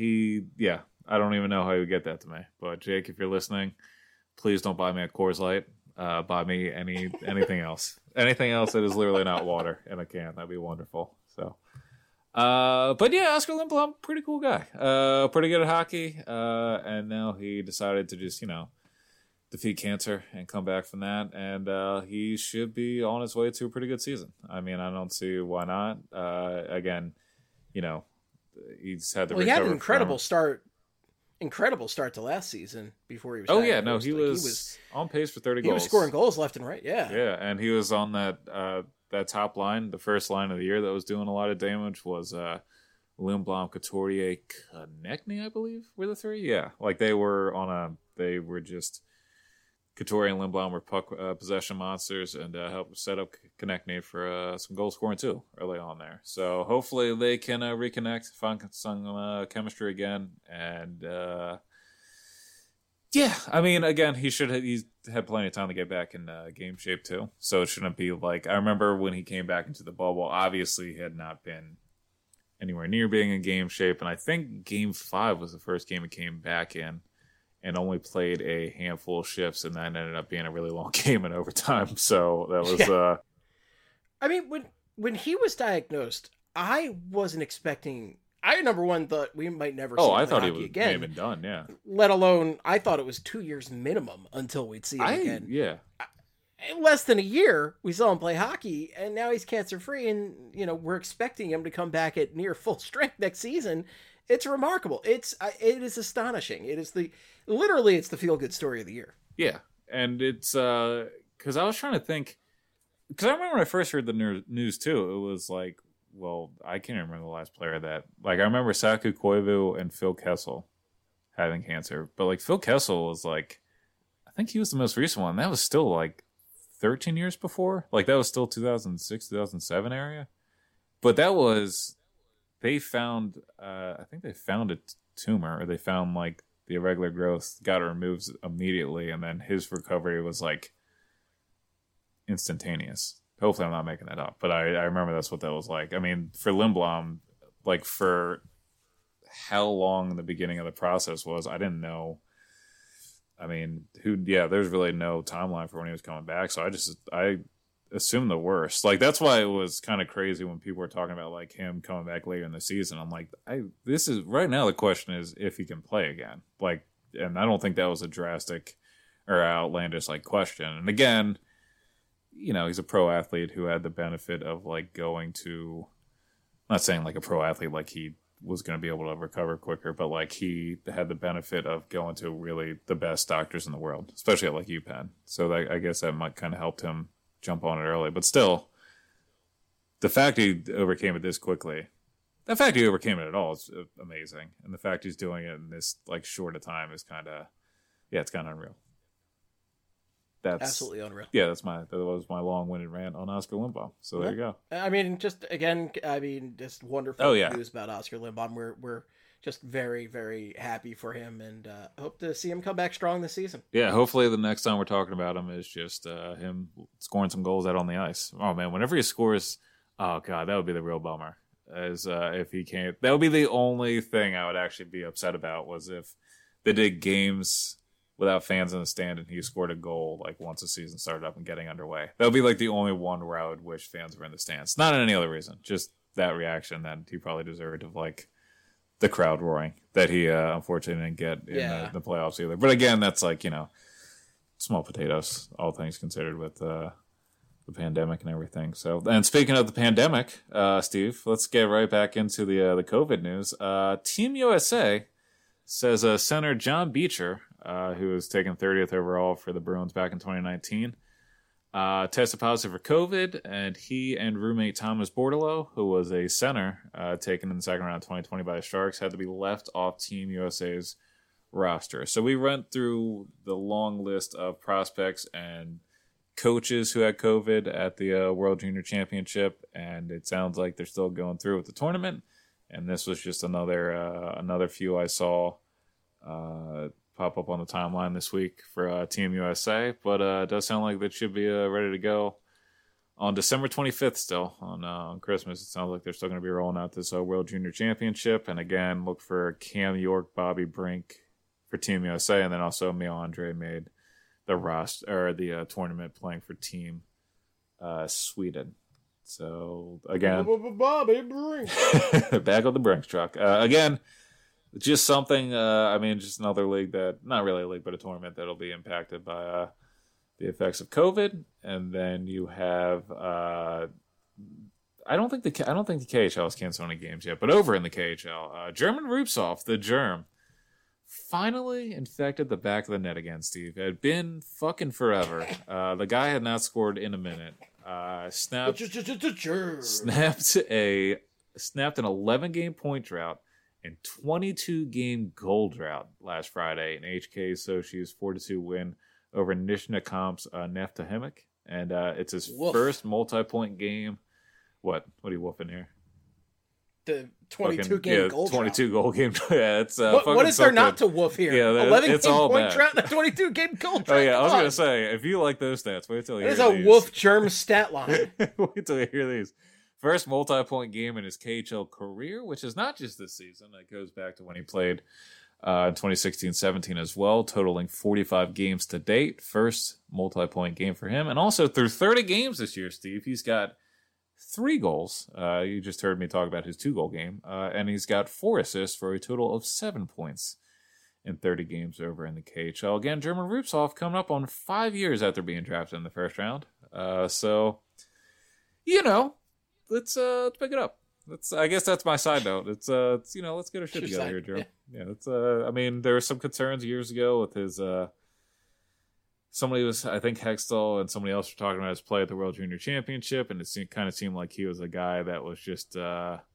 I don't even know how he would get that to me, but Jake, if you're listening, please don't buy me a Coors Light. Buy me anything else. Anything else that is literally not water in a can. That'd be wonderful. So. But yeah, Oscar Lindblom, pretty cool guy. Pretty good at hockey. And now he decided to just, defeat cancer and come back from that. And he should be on his way to a pretty good season. I don't see why not. Again, he's had the he had an incredible start to last season before he was. Oh yeah, no, he was on pace for 30 goals. He was scoring goals left and right. Yeah, yeah, and he was on that top line, the first line of the year that was doing a lot of damage was Lindblom, Couturier, Konechny, I believe, were the three. Yeah, they were just Couturier and Lindblom were puck possession monsters and helped set up Konechny for some goal scoring too early on there. So hopefully they can reconnect, find some chemistry again, and again, he's had plenty of time to get back in game shape too. So it shouldn't be I remember when he came back into the bubble, obviously he had not been anywhere near being in game shape. And I think game 5 was the first game he came back in and only played a handful of shifts. And that ended up being a really long game in overtime. So that was, when he was diagnosed, I wasn't expecting. I, number one, thought we might never see him I thought play he hockey was again. may have been done, yeah. Let alone, I thought it was 2 years minimum until we'd see him again. Yeah. In less than a year, we saw him play hockey, and now he's cancer-free, and, we're expecting him to come back at near full strength next season. It's remarkable. It is astonishing. It is literally, it's the feel-good story of the year. Yeah, and it's, because I was trying to think, because I remember when I first heard the news, too, it was well, I can't remember the last player that... I remember Saku Koivu and Phil Kessel having cancer. But, Phil Kessel was, I think he was the most recent one. That was still like 13 years before. Like that was still 2006, 2007 area. But that was, they found, I think they found a tumor, or they found like the irregular growth, got it removed immediately, and then his recovery was like instantaneous. Hopefully I'm not making that up, but I remember that's what that was like. I mean, for Lindblom, like for how long the beginning of the process was, I didn't know. I mean, there's really no timeline for when he was coming back, so I assumed the worst. Like that's why it was kind of crazy when people were talking about like him coming back later in the season. I'm like, this is right now the question is if he can play again. Like, and I don't think that was a drastic or outlandish like question. And again, you know, he's a pro athlete who had the benefit of like going to, I'm not saying like a pro athlete like he was going to be able to recover quicker, but like he had the benefit of going to really the best doctors in the world, especially at like UPenn. So that, I guess that might kind of helped him jump on it early. But still, the fact he overcame it this quickly, the fact he overcame it at all is amazing. And the fact he's doing it in this like short a time is kind of, it's kind of unreal. That's absolutely unreal. Yeah, that was my long-winded rant on Oscar Lindblom. So there you go. I mean, just wonderful news about Oscar Lindblom. We're just very, very happy for him, and hope to see him come back strong this season. Yeah, hopefully the next time we're talking about him is just him scoring some goals out on the ice. Oh man, whenever he scores, oh god, that would be the real bummer. As if he can't, that would be the only thing I would actually be upset about, was if they did games without fans in the stand and he scored a goal like once the season started up and getting underway. That would be like the only one where I would wish fans were in the stands. Not any other reason, just that reaction that he probably deserved of like the crowd roaring that he unfortunately didn't get in the playoffs either. But again, that's like, you know, small potatoes, all things considered, with the pandemic and everything. So, and speaking of the pandemic, Steve, let's get right back into the COVID news. Team USA says center John Beecher, who was taken 30th overall for the Bruins back in 2019, tested positive for COVID, and he and roommate Thomas Bordeleau, who was a center taken in the second round of 2020 by the Sharks, had to be left off Team USA's roster. So we went through the long list of prospects and coaches who had COVID at the World Junior Championship, and it sounds like they're still going through with the tournament. And this was just another few I saw pop up on the timeline this week for Team USA. But it does sound like that should be ready to go on December 25th still, on Christmas. It sounds like they're still going to be rolling out this World Junior Championship. And again, look for Cam York, Bobby Brink for Team USA, and then also Emil Andre made the roster or the tournament playing for Team Sweden. So again, Bobby Brink back on the Brinks truck again. Just something. I mean, just another league that, not really a league, but a tournament that'll be impacted by the effects of COVID. And then you have. I don't think the KHL is canceling any games yet, but over in the KHL, German Rupsov, the Germ, finally infected the back of the net again, Steve. It had been fucking forever. The guy had not scored in a minute. Snapped an 11-game point drought and 22-game goal drought last Friday in HK Sochi's 4-2 win over Nizhny-Kamp's Neftahimik. And it's his first multi-point game. What are you woofing here? The 22-game goal 22 goal game. Yeah, it's what is there not to woof here? Yeah, 11 game point drought and a 22-game goal drought. Oh yeah, I was gonna say, if you like those stats, wait till you hear these. There's a woof germ stat line. Wait till you hear these. First multi-point game in his KHL career, which is not just this season. It goes back to when he played in 2016-17 as well, totaling 45 games to date. First multi-point game for him, and also through 30 games this year, Steve, he's got 3 goals. You just heard me talk about his 2-goal game. And he's got 4 assists for a total of 7 points in 30 games over in the KHL. Again, German Rupsov coming up on 5 years after being drafted in the first round. So, you know, let's pick it up. I guess that's my side note. Let's get our shit together here, Joe. Yeah. I mean, there were some concerns years ago with his, somebody was, I think Hextall and somebody else were talking about his play at the World Junior Championship, and it kind of seemed like he was a guy that was just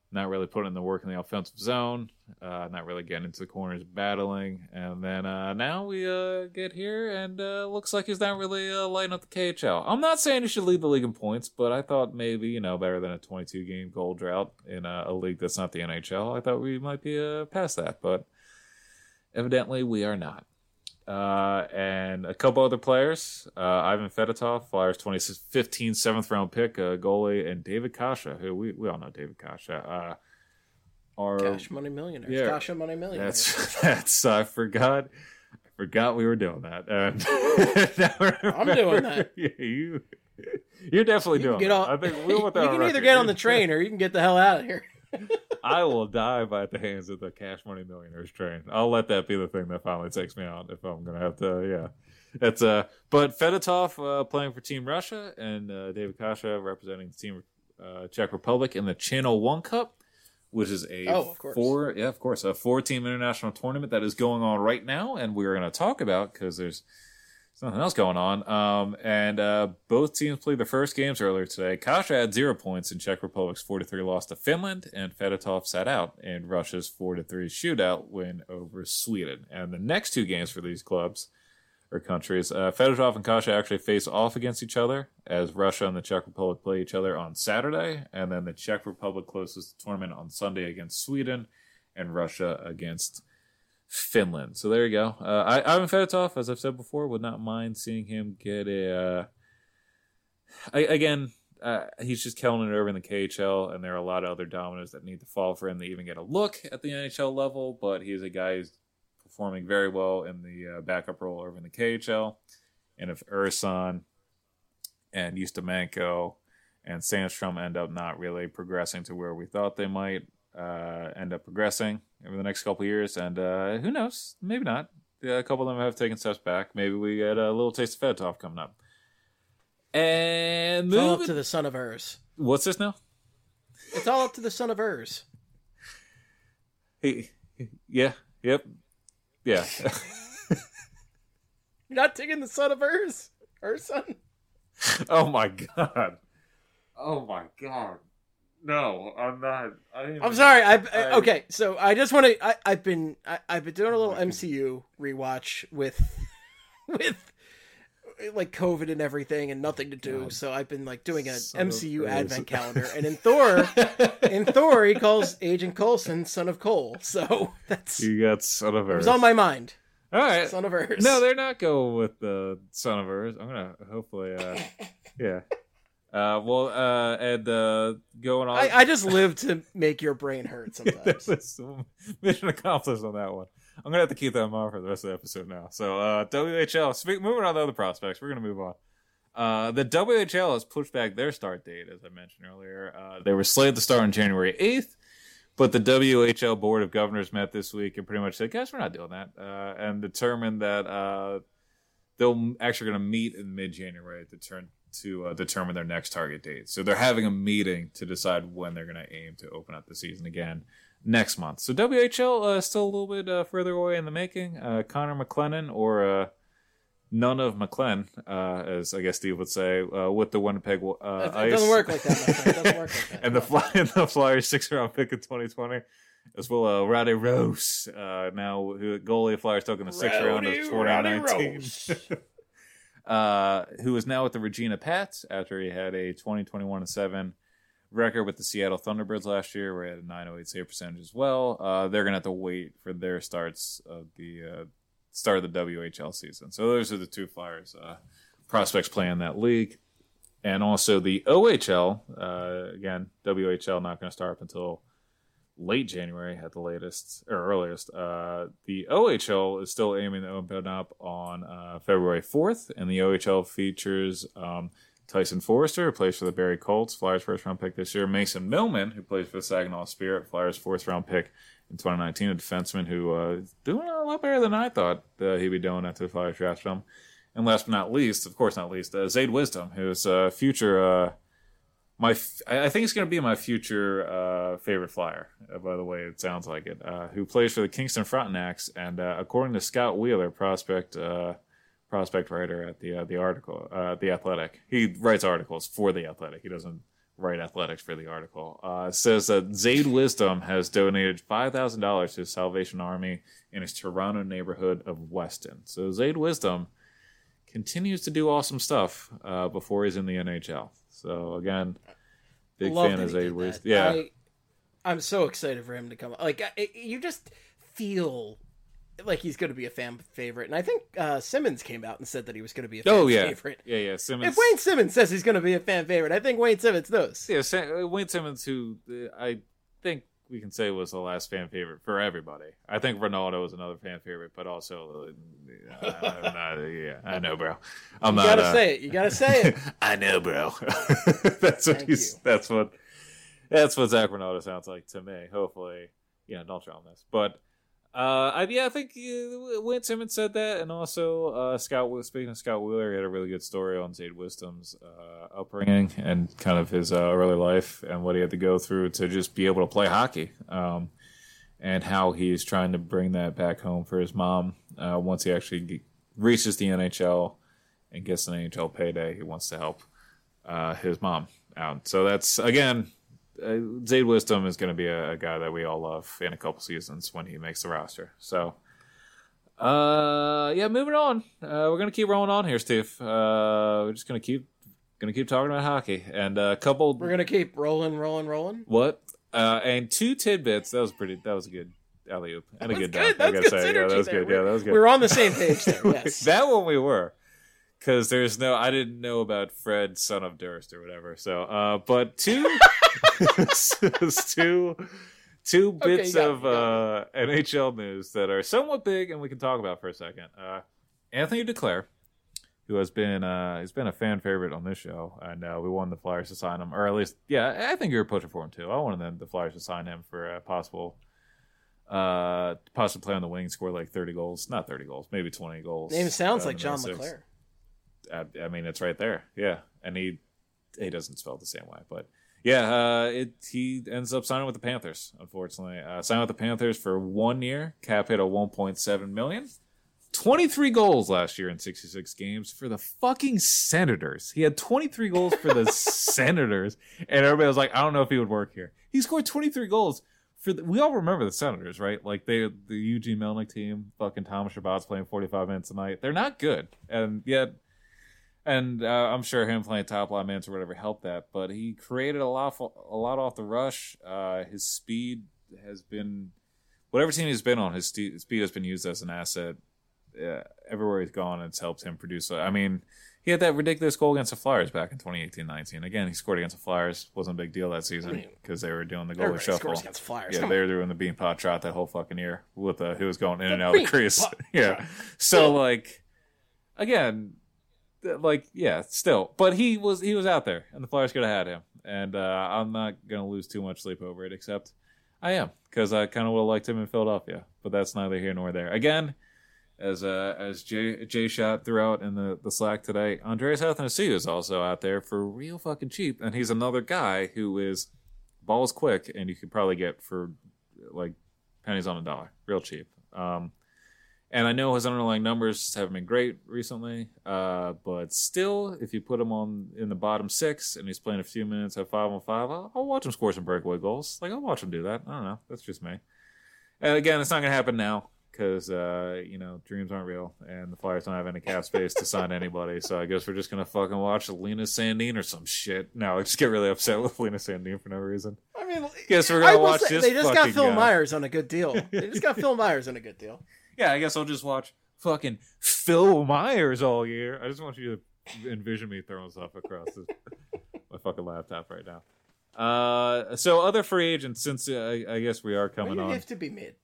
not really putting in the work in the offensive zone, not really getting into the corners battling. And then now we get here, and looks like he's not really lighting up the KHL. I'm not saying he should lead the league in points, but I thought maybe, better than a 22-game goal drought in a league that's not the NHL. I thought we might be past that, but evidently we are not. And a couple other players, Ivan Fedotov, Flyers 2015 7th-round pick, goalie, and David Kasha, who we all know David Kasha. Are Cash Money Millionaires. Yeah, Kasha Money Millionaires. That's I forgot we were doing that. And I'm doing that. Yeah, you're definitely doing it. I think we'll put that you on can record. either get on the train or you can get the hell out of here. I will die by the hands of the Cash Money Millionaires train. I'll let that be the thing that finally takes me out if I'm going to have to, yeah. It's but Fedotov playing for Team Russia and David Kasha representing the Team Czech Republic in the Channel One Cup, which is a a 4-team international tournament that is going on right now, and we're going to talk about because there's nothing else going on. And both teams played their first games earlier today. Kasha had 0 points in Czech Republic's 4-3 loss to Finland, and Fedotov sat out in Russia's 4-3 shootout win over Sweden. And the next two games for these clubs or countries, Fedotov and Kasha actually face off against each other as Russia and the Czech Republic play each other on Saturday, and then the Czech Republic closes the tournament on Sunday against Sweden, and Russia against Finland. So there you go. Ivan Fedotov, as I've said before, would not mind seeing him get a. He's just killing it over in the KHL, and there are a lot of other dominoes that need to fall for him to even get a look at the NHL level. But he's a guy who's performing very well in the backup role over in the KHL. And if Ursan and Ustimenko and Sandstrom end up not really progressing to where we thought they might end up progressing over the next couple of years, and who knows, maybe not. A couple of them have taken steps back. Maybe we get a little taste of Fedotov coming up. And it's all up to the son of Urs. What's this now? It's all up to the son of Urs. Yeah. You're not taking the son of Urs? Urson? Oh my god. No, I'm not. I'm sorry. Okay, so I just want to. I've been doing a little MCU rewatch with like COVID and everything, and nothing to do. God. So I've been like doing an MCU advent calendar, and in Thor, he calls Agent Coulson son of Cole. So that's you got son of Earth. It was on my mind. All right, son of Earth. No, they're not going with the son of Earth. I'm gonna hopefully, yeah. Going on. I just live to make your brain hurt sometimes. Mission accomplished on that one. I'm going to have to keep that in mind for the rest of the episode now. So, WHL, moving on to other prospects, we're going to move on. The WHL has pushed back their start date, as I mentioned earlier. They were slated to start on January 8th, but the WHL Board of Governors met this week and pretty much said, guys, we're not doing that, and determined that they're actually going to meet in mid-January to determine their next target date. So they're having a meeting to decide when they're going to aim to open up the season again next month. So WHL is still a little bit further away in the making. Connor McLennan, or none of McLennan, as I guess Steve would say, with the Winnipeg Ice. It doesn't work like that, my friend. It doesn't work like that. And the Flyers 6th-round pick in 2020. As well, Rade Rose, now goalie of Flyers took in the 6th round of 2019. Who is now with the Regina Pats after he had a 20-21-7 record with the Seattle Thunderbirds last year, where he had a .908 save percentage as well. They're going to have to wait for their starts of the start of the WHL season. So those are the two Flyers prospects playing that league. And also the OHL, again, WHL not going to start up until late January at the latest or earliest. The OHL is still aiming to open up on February 4th, and the OHL features Tyson Forrester, who plays for the Barrie Colts, Flyers 1st-round pick this year. Mason Millman, who plays for the Saginaw Spirit, Flyers 4th-round pick in 2019, a defenseman who is doing a lot better than I thought he'd be doing after the Flyers drafted him. And last but not least, Zade Wisdom, who's a future... I think it's going to be my future favorite Flyer, by the way it sounds like it, who plays for the Kingston Frontenacs, and according to Scott Wheeler, prospect writer at the Athletic, he writes articles for the Athletic. He doesn't Right Athletics for the article. It says that Zayd Wisdom has donated $5,000 to the Salvation Army in his Toronto neighborhood of Weston. So Zayd Wisdom continues to do awesome stuff before he's in the NHL. So again, big fan of Zayd Wisdom. Yeah, I'm so excited for him to come. Like you just feel like he's going to be a fan favorite, and I think Simmons came out and said that he was going to be a fan favorite. Yeah. Simmons. If Wayne Simmons says he's going to be a fan favorite, I think Wayne Simmons knows. Yeah, Wayne Simmons, who I think we can say was the last fan favorite for everybody. I think Ronaldo was another fan favorite, but also, I know, bro. You gotta say it. You gotta say it. I know, bro. That's what That's what Zach Ronaldo sounds like to me. Hopefully, don't try on this, but. I think Wayne Simmons said that, and also speaking of Scott Wheeler, he had a really good story on Zayd Wisdom's upbringing and kind of his early life and what he had to go through to just be able to play hockey, and how he's trying to bring that back home for his mom once he actually reaches the NHL and gets an NHL payday. He wants to help his mom out. So that's, again... Zayd Wisdom is going to be a guy that we all love in a couple seasons when he makes the roster. So, moving on. We're going to keep rolling on here, Steve. We're just going to keep talking about hockey and a couple. We're going to keep rolling. What? And two tidbits. That was a good alley oop and a good dunk. I gotta say, that was good. Yeah, that was good. We were on the same page there. Yes, that one we were. Because I didn't know about Fred, son of Durst, or whatever. So, but two bits of NHL news that are somewhat big, and we can talk about for a second. Anthony Duclair, who has been he's been a fan favorite on this show, and we wanted the Flyers to sign him, or at least, I think you were pushing for him too. I wanted the Flyers to sign him for a possible play on the wing, score like 30 goals, not 30 goals, maybe 20 goals. Name sounds like John LeClair. I mean, it's right there. Yeah. And he doesn't spell it the same way, but he ends up signing with the Panthers, unfortunately. Signed with the Panthers for 1 year, cap hit of $1.7 million. 23 goals last year in 66 games for the fucking Senators. He had 23 goals for the Senators, and everybody was like, I don't know if he would work here. He scored 23 goals we all remember the Senators, right? Like the Eugene Melnyk team, fucking Thomas Chabot's playing 45 minutes a night. They're not good, and yet. And I'm sure him playing top line minutes or whatever helped that, but he created a lot off the rush. His speed has been, whatever team he's been on, his speed has been used as an asset everywhere he's gone. It's helped him produce. I mean, he had that ridiculous goal against the Flyers back in 2018-19. Again, he scored against the Flyers. Wasn't a big deal that season because they were doing the goalie shuffle. Scores against Flyers. Yeah, they were doing the bean pot shot that whole fucking year with who was going in and out of the crease. Yeah, so again. Still. But he was out there, and the Flyers could have had him. And I'm not going to lose too much sleep over it, except I am, because I kind of would have liked him in Philadelphia. But that's neither here nor there. Again, as Jay shot throughout in the Slack today, Andreas Athanasiou is also out there for real fucking cheap. And he's another guy who is balls quick, and you could probably get for, pennies on a dollar. Real cheap. And I know his underlying numbers haven't been great recently, but still, if you put him in the bottom six and he's playing a few minutes at 5-on-5, I'll watch him score some breakaway goals. I'll watch him do that. I don't know. That's just me. And again, it's not going to happen now because, dreams aren't real and the Flyers don't have any cap space to sign anybody. So I guess we're just going to fucking watch Linus Sandin or some shit. No, I just get really upset with Linus Sandin for no reason. I mean, guess we're going to watch this. They just got Phil Myers on a good deal. Yeah, I guess I'll just watch fucking Phil Myers all year. I just want you to envision me throwing stuff across my fucking laptop right now. So other free agents, since I guess we are coming on. You have to be mid.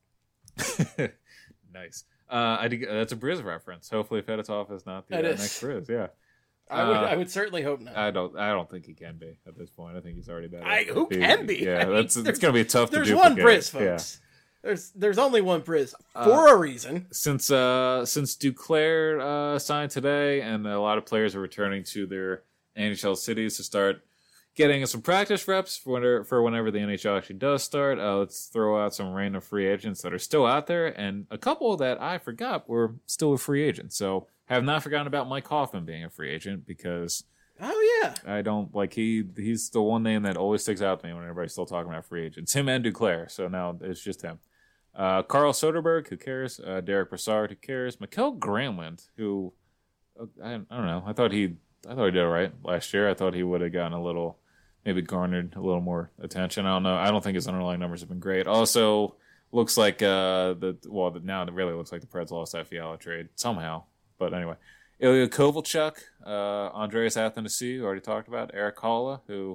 Nice. That's a Briz reference. Hopefully Fedotov is not the next Briz. Yeah. I would certainly hope not. I don't think he can be at this point. I think he's already better. Who can be? Yeah, it's going to be tough to duplicate. There's one Briz, folks. Yeah. There's only one Briz for a reason. Since Duclair signed today, and a lot of players are returning to their NHL cities to start getting some practice reps for whenever the NHL actually does start. Let's throw out some random free agents that are still out there, and a couple that I forgot were still a free agent. So have not forgotten about Mike Hoffman being a free agent because Oh yeah. I don't like he's the one name that always sticks out to me when everybody's still talking about free agents. Him and Duclair. So now it's just him. Carl Soderberg, who cares? Derek Brassard, who cares? Mikael Granlund, who I don't know. I thought he did all right last year. I thought he would have gotten a little, maybe garnered a little more attention. I don't know. I don't think his underlying numbers have been great. Also, looks like now it really looks like the Preds lost that Fiala trade somehow. But anyway. Ilya Kovalchuk, Andreas Athanasiou, who already talked about. Eric Haula, who,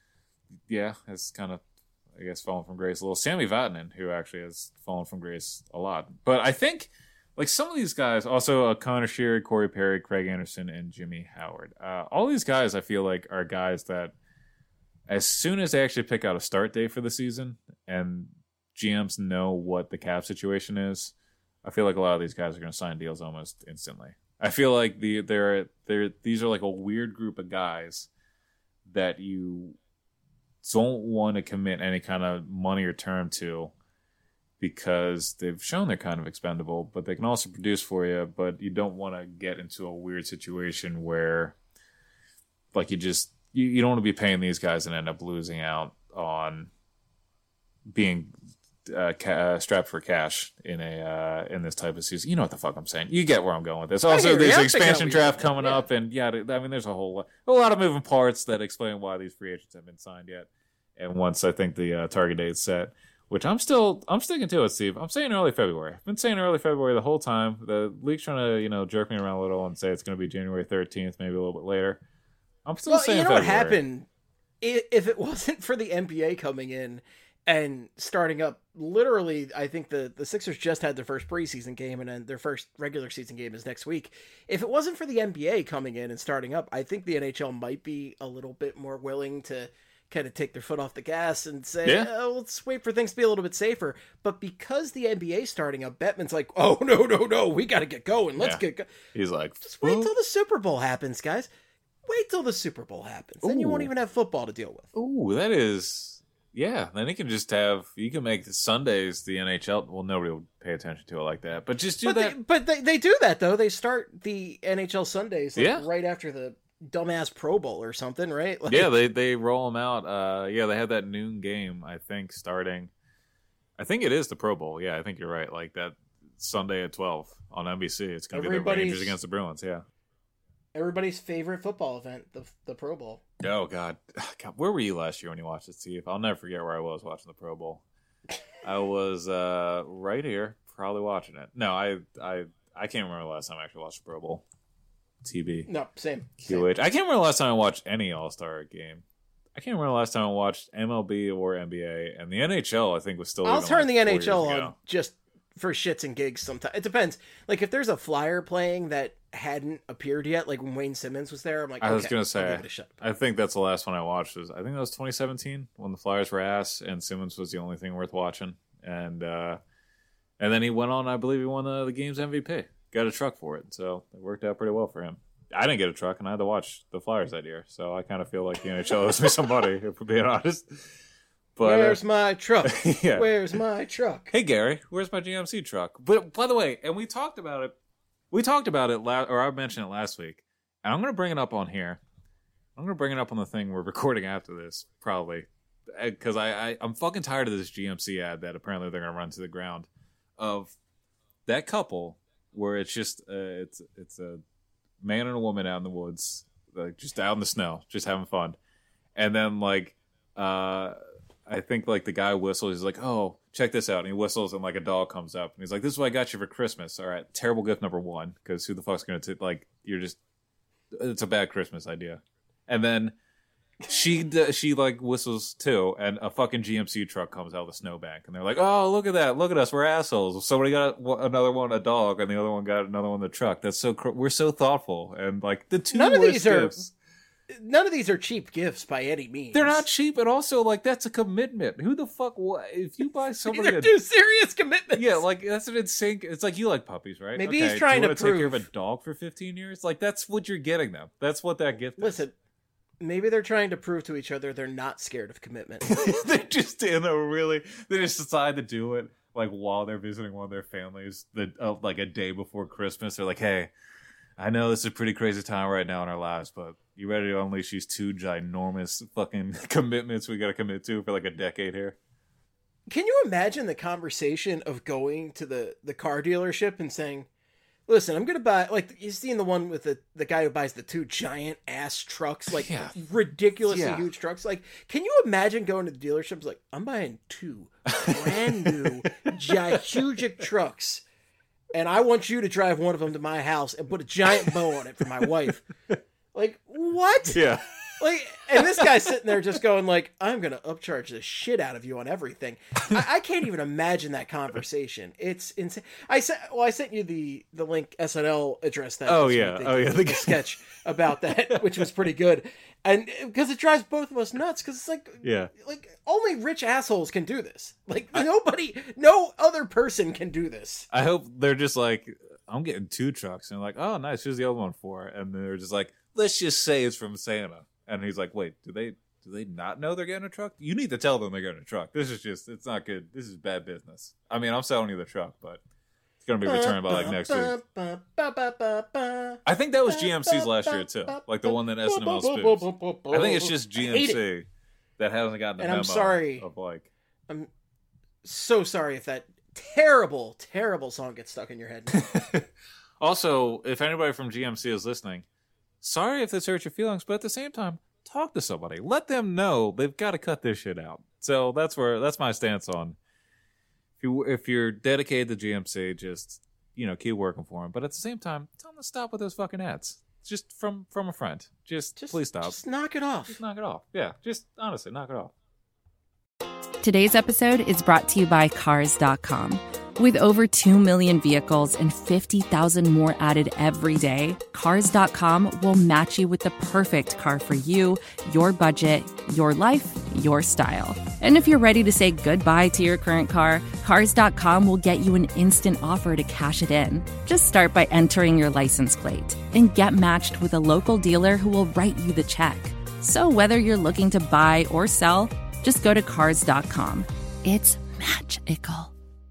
has kind of, I guess, fallen from grace a little. Sammy Vatanen, who actually has fallen from grace a lot. But I think, like, some of these guys, also Connor Sheary, Corey Perry, Craig Anderson, and Jimmy Howard. All these guys, I feel like, are guys that, as soon as they actually pick out a start date for the season, and GMs know what the cap situation is, I feel like a lot of these guys are going to sign deals almost instantly. I feel like these are like a weird group of guys that you don't want to commit any kind of money or term to because they've shown they're kind of expendable, but they can also produce for you, but you don't want to get into a weird situation where like you don't want to be paying these guys and end up losing out on being strapped for cash in this type of season. You know what the fuck I'm saying. You get where I'm going with this. Also, there's an expansion draft coming up, and there's a lot of moving parts that explain why these free agents haven't been signed yet. And once I think the target date's set, which I'm sticking to it, Steve. I'm saying early February. I've been saying early February the whole time. The league's trying to jerk me around a little and say it's going to be January 13th, maybe a little bit later. I'm still saying February. What happened if it wasn't for the NBA coming in and starting up, literally, I think the Sixers just had their first preseason game, and then their first regular season game is next week. If it wasn't for the NBA coming in and starting up, I think the NHL might be a little bit more willing to kind of take their foot off the gas and say, let's wait for things to be a little bit safer. But because the NBA starting up, Bettman's like, oh, no, we got to get going. Let's get going. He's like, just wait till the Super Bowl happens, guys. Wait till the Super Bowl happens. Then you won't even have football to deal with. Ooh, that is... Yeah, then you can make Sundays the NHL. Well, nobody will pay attention to it like that, but just do that. But they do that, though. They start the NHL Sundays right after the dumbass Pro Bowl or something, right? Like, yeah, they roll them out. They have that noon game, I think, starting. I think it is the Pro Bowl. Yeah, I think you're right. Like that Sunday at 12 on NBC. It's going to be the Rangers against the Bruins, yeah. Everybody's favorite football event, the Pro Bowl. Oh, God. Where were you last year when you watched it, Steve? I'll never forget where I was watching the Pro Bowl. I was right here, probably watching it. No, I can't remember the last time I actually watched the Pro Bowl. TB. No, same. QH. I can't remember the last time I watched any All-Star game. I can't remember the last time I watched MLB or NBA. And the NHL, I think, was still... I'll turn the NHL on just for shits and gigs sometimes. It depends. Like, if there's a Flyer playing that hadn't appeared yet, like when Wayne Simmons was there, I'm like, I was going to say, I'll give it a shot. I think that's the last one I watched. I think that was 2017 when the Flyers were ass and Simmons was the only thing worth watching. And then he went on, I believe he won the game's MVP. Got a truck for it. So it worked out pretty well for him. I didn't get a truck, and I had to watch the Flyers that year. So I kind of feel like the NHL owes me some money, if we're being honest. But, where's my truck? Yeah. Where's my truck? Hey, Gary, where's my GMC truck? But by the way, and we talked about it. Or I mentioned it last week, and I'm going to bring it up on here. I'm going to bring it up on the thing we're recording after this, probably, because I'm fucking tired of this GMC ad that apparently they're going to run to the ground of that couple where it's just it's a man and a woman out in the woods, like just out in the snow, just having fun, and then I think like the guy whistles. He's like, "Oh, check this out!" And he whistles, and like a dog comes up, and he's like, "This is what I got you for Christmas." All right, terrible gift number one, because who the fuck's gonna it's a bad Christmas idea. And then she like whistles too, and a fucking GMC truck comes out of the snowbank, and they're like, "Oh, look at that! Look at us! We're assholes! Somebody got another one a dog, and the other one got another one the truck. That's so we're so thoughtful." And like the two worst gifts. None of these are cheap gifts by any means. They're not cheap, and also like that's a commitment. Who the fuck? If you buy somebody, they're two serious commitments. Yeah, like that's an insane. It's like you like puppies, right? Maybe he's trying to take care of a dog for 15 years. Like that's what you're getting them. That's what that gift. Listen, maybe they're trying to prove to each other they're not scared of commitment. They're just they just decide to do it like while they're visiting one of their families, like a day before Christmas. They're like, hey. I know this is a pretty crazy time right now in our lives, but you ready to unleash these 2 ginormous fucking commitments we got to commit to for like a decade here? Can you imagine the conversation of going to the car dealership and saying, listen, I'm going to buy, like, you seen the one with the guy who buys the 2 giant ass trucks, like ridiculously huge trucks. Like, can you imagine going to the dealerships like, I'm buying 2 brand new huge trucks, and I want you to drive one of them to my house and put a giant bow on it for my wife. Like, what? Yeah. Like, and this guy's sitting there just going like, I'm going to upcharge the shit out of you on everything. I can't even imagine that conversation. It's insane. I sent you the link SNL addressed that. The sketch about that, which was pretty good. And because it drives both of us nuts, because it's like, like only rich assholes can do this. Like no other person can do this. I hope they're just like, I'm getting 2 trucks. And they're like, oh, nice. Who's the other one for? And they're just like, let's just say it's from Santa. And he's like, wait, do they not know they're getting a truck? You need to tell them they're getting a truck. It's not good. This is bad business. I mean, I'm selling you the truck, but it's going to be returned by like next week. I think that was GMC's last year too. Like the one that SNL spoofs. I think it's just GMC that hasn't gotten the memo. I'm sorry. I'm so sorry if that terrible, terrible song gets stuck in your head. Also, if anybody from GMC is listening, sorry if this hurts your feelings, but at the same time, talk to somebody. Let them know they've got to cut this shit out. So that's my stance on. If you're dedicated to GMC, just keep working for them. But at the same time, tell them to stop with those fucking ads. Just from a friend. Just please stop. Just knock it off. Just knock it off. Yeah, just honestly knock it off. Today's episode is brought to you by Cars.com. With over 2 million vehicles and 50,000 more added every day, Cars.com will match you with the perfect car for you, your budget, your life, your style. And if you're ready to say goodbye to your current car, Cars.com will get you an instant offer to cash it in. Just start by entering your license plate and get matched with a local dealer who will write you the check. So whether you're looking to buy or sell, just go to Cars.com. It's magical.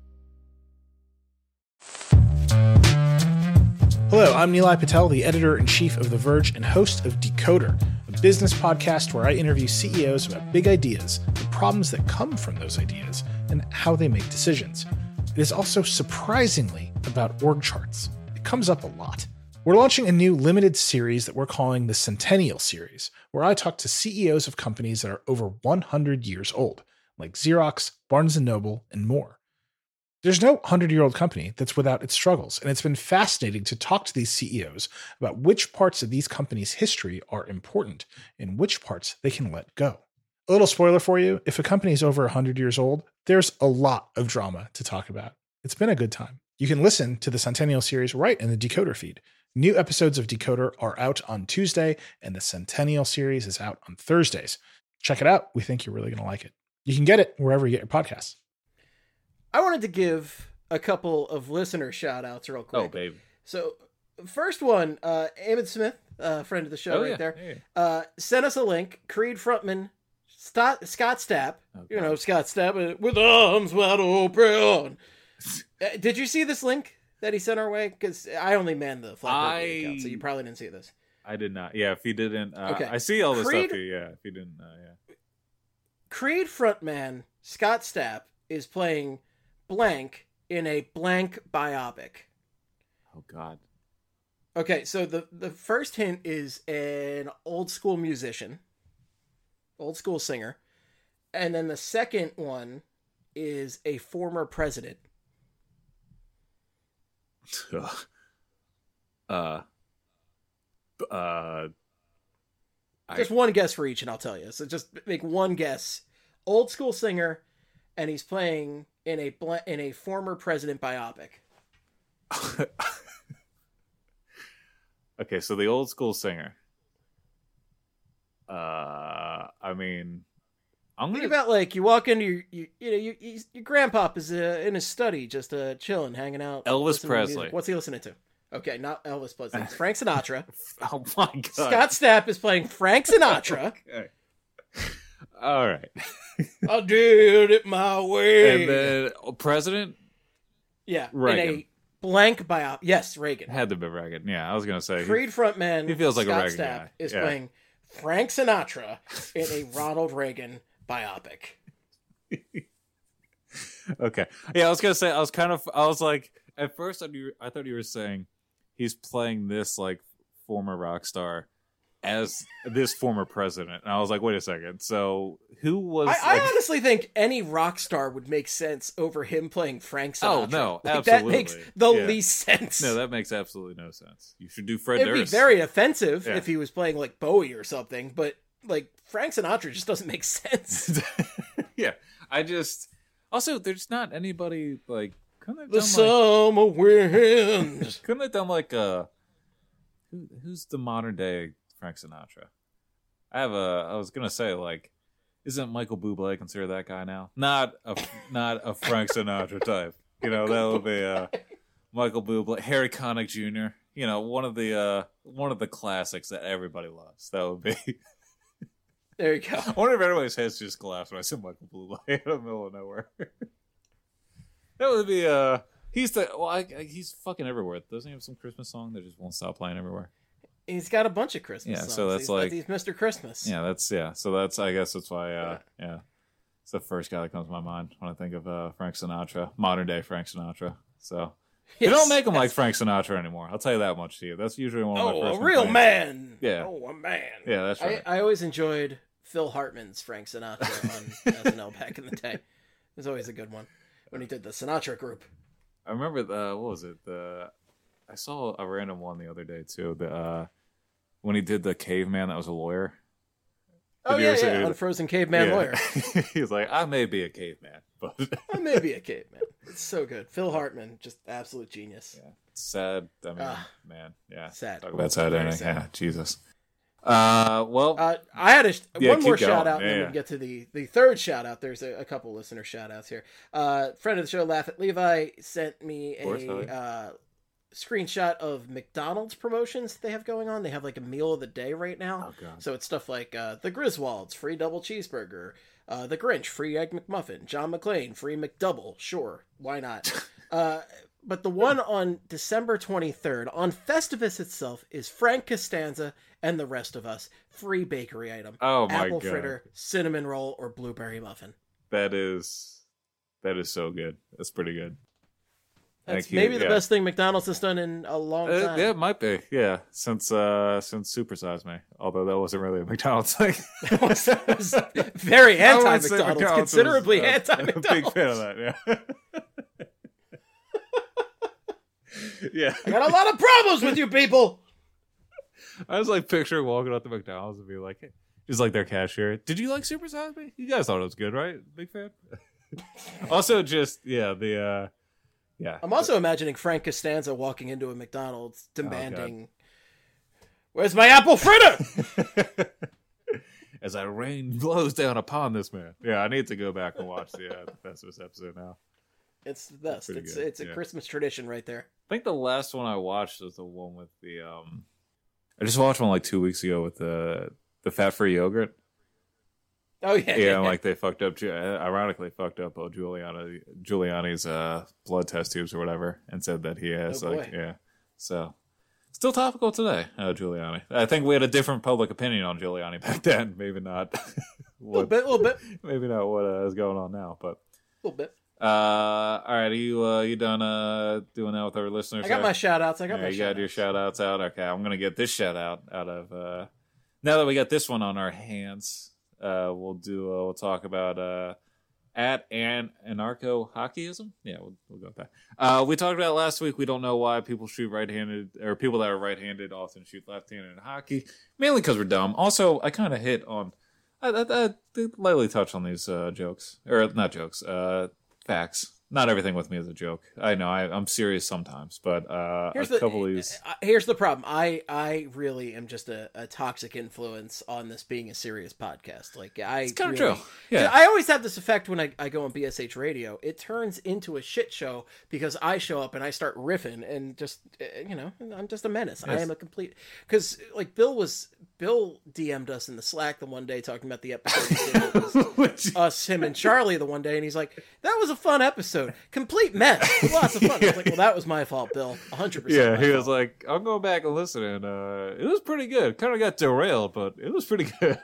Hello, I'm Nilay Patel, the editor-in-chief of The Verge and host of Decoder, a business podcast where I interview CEOs about big ideas, the problems that come from those ideas, and how they make decisions. It is also surprisingly about org charts. It comes up a lot. We're launching a new limited series that we're calling the Centennial Series, where I talk to CEOs of companies that are over 100 years old, like Xerox, Barnes & Noble, and more. There's no 100-year-old company that's without its struggles, and it's been fascinating to talk to these CEOs about which parts of these companies' history are important and which parts they can let go. A little spoiler for you, if a company is over 100 years old, there's a lot of drama to talk about. It's been a good time. You can listen to the Centennial Series right in the Decoder feed. New episodes of Decoder are out on Tuesday, and the Centennial Series is out on Thursdays. Check it out. We think you're really going to like it. You can get it wherever you get your podcasts. I wanted to give a couple of listener shout outs real quick. Oh, baby. So, first one, Emmett Smith, friend of the show there, sent us a link. Creed frontman Scott Stapp, Scott Stapp with arms wide open. Did you see this link that he sent our way? Because I only man the Flat account, so you probably didn't see this. I did not. Yeah, if he didn't, okay. I see all this stuff here. Yeah, if he didn't, Creed frontman Scott Stapp is playing blank in a blank biopic. Oh God. Okay, so the first hint is an old school musician, old school singer, and then the second one is a former president. Just one guess for each, and I'll tell you. So just make one guess. Old school singer, and he's playing in a former president biopic. Okay, so the old school singer. I mean, think about like you walk into your grandpop is in his study, just chilling, hanging out. Elvis Presley. What's he listening to? Okay, not Elvis Presley. It's Frank Sinatra. Oh my God. Scott Stapp is playing Frank Sinatra. Okay. All right. I did it my way. And then president. Yeah, Reagan. in a blank biop. Yes, Reagan. Had to be Reagan. Yeah, I was gonna say Creed frontman. he feels like a Scott Reagan Stapp guy. is Yeah. playing Frank Sinatra in a Ronald Reagan biopic. Okay. Yeah, I was gonna say I was like at first I thought you were saying he's playing this like former rock star as this former president, and I was like, wait a second. So who was? I honestly think any rock star would make sense over him playing Frank Sinatra. Oh no, like, absolutely. That makes the least sense. No, that makes absolutely no sense. You should do Fred It'd Durst. be very offensive Yeah. if he was playing like Bowie or something, but like Frank Sinatra just doesn't make sense. Yeah, I just also there's not anybody like couldn't The they done summer wind. like couldn't they done like who's the modern day Frank Sinatra? I was gonna say like isn't Michael Bublé considered that guy now? Not a Frank Sinatra type. You know that would be Michael Bublé, Harry Connick Jr. You know one of the classics that everybody loves. That would be. There you go. I wonder if everybody's heads just collapsed when I said Michael Bublé in the middle of nowhere. That would be he's fucking everywhere. Doesn't he have some Christmas song that just won't stop playing everywhere? He's got a bunch of Christmas songs. So that's he's Mr. Christmas. So that's I guess that's why it's the first guy that comes to my mind when I think of Frank Sinatra, modern day Frank Sinatra. So they don't make him like Frank Sinatra anymore. I'll tell you that much to you. That's usually one of my first a real complaints. man. Yeah. Oh, a man. Yeah, that's right. I always enjoyed Phil Hartman's Frank Sinatra on SNL back in the day. It was always a good one when he did the Sinatra Group. I remember what was it? I saw a random one the other day too. When he did the caveman that was a lawyer. Oh yeah, Unfrozen Caveman Lawyer. He was like, I may be a caveman, but I may be a caveman. It's so good. Phil Hartman, just absolute genius. yeah, it's sad. I mean, man, yeah, sad. Talk about sad Very ending. sad. Yeah, Jesus. Well, I had one more keep shout going. out, and then we can get to the third shout out. There's a couple listener shout outs here. Friend of the show, Laugh at Levi, sent me a screenshot of McDonald's promotions they have going on. They have like a meal of the day right now. Oh, God. So it's stuff like the Griswolds, free double cheeseburger, the Grinch, free egg McMuffin, John McClane, free McDouble. Sure, why not? But the one on December 23rd, on Festivus itself, is Frank Costanza and the rest of us. Free bakery item. Oh, my Apple God. fritter, cinnamon roll, or blueberry muffin. that is so good. That's pretty good. That's Thank you. maybe the Yeah. best thing McDonald's has done in a long time. Yeah, it might be. Yeah, since Supersize Me. Although that wasn't really a McDonald's thing. It was very I wouldn't say anti-McDonald's, was, considerably I'm a anti-McDonald's. big fan of that. Yeah. Yeah. I got a lot of problems with you people. I was like picturing walking up to McDonald's and be like, hey, just like their cashier. Did you like Super Size Me? You guys thought it was good, right? Big fan. Also, just yeah. I'm also imagining Frank Costanza walking into a McDonald's demanding, "Where's my apple fritter?" As rain blows down upon this man. Yeah, I need to go back and watch the Festivus episode now. It's the best. Pretty It's good, it's a yeah. Christmas tradition right there. I think the last one I watched was the one with the I just watched one like 2 weeks ago with the fat-free yogurt. Oh yeah, Yeah, like they fucked up. Ironically, fucked up Giuliani's blood test tubes or whatever, and said that he has Oh, boy. So still topical today, Giuliani. I think we had a different public opinion on Giuliani back then. Maybe not. a little bit, Maybe not what is going on now, but a little bit. all right. Are you done doing that with our listeners? I got my shout outs. You got your shout outs out. Okay, I'm gonna get this shout out of now that we got this one on our hands. We'll talk about at anarcho hockeyism. Yeah, we'll go with that. We talked about last week. We don't know why people shoot right-handed, or people that are right-handed often shoot left-handed in hockey. Mainly because we're dumb. Also, I kind of hit on. I lightly touched on these jokes, or not jokes, facts. Not everything with me is a joke. I know I'm serious sometimes, but Here's a couple of these. Here's the problem. I really am just a toxic influence on this being a serious podcast. Like It's kind of really, true. Yeah. I always have this effect when I go on BSH radio. It turns into a shit show because I show up and I start riffing and just I'm just a menace. Yes. I am a complete because like Bill was Bill DM'd us in the Slack the one day talking about the episode. It was him, and Charlie the one day, and he's like, "That was a fun episode. Complete mess. Lots of fun." I was like, "Well, that was my fault, Bill. 100%." Yeah, he fault. was like, "I'll go back and listen," and it was pretty good. Kind of got derailed, but it was pretty good.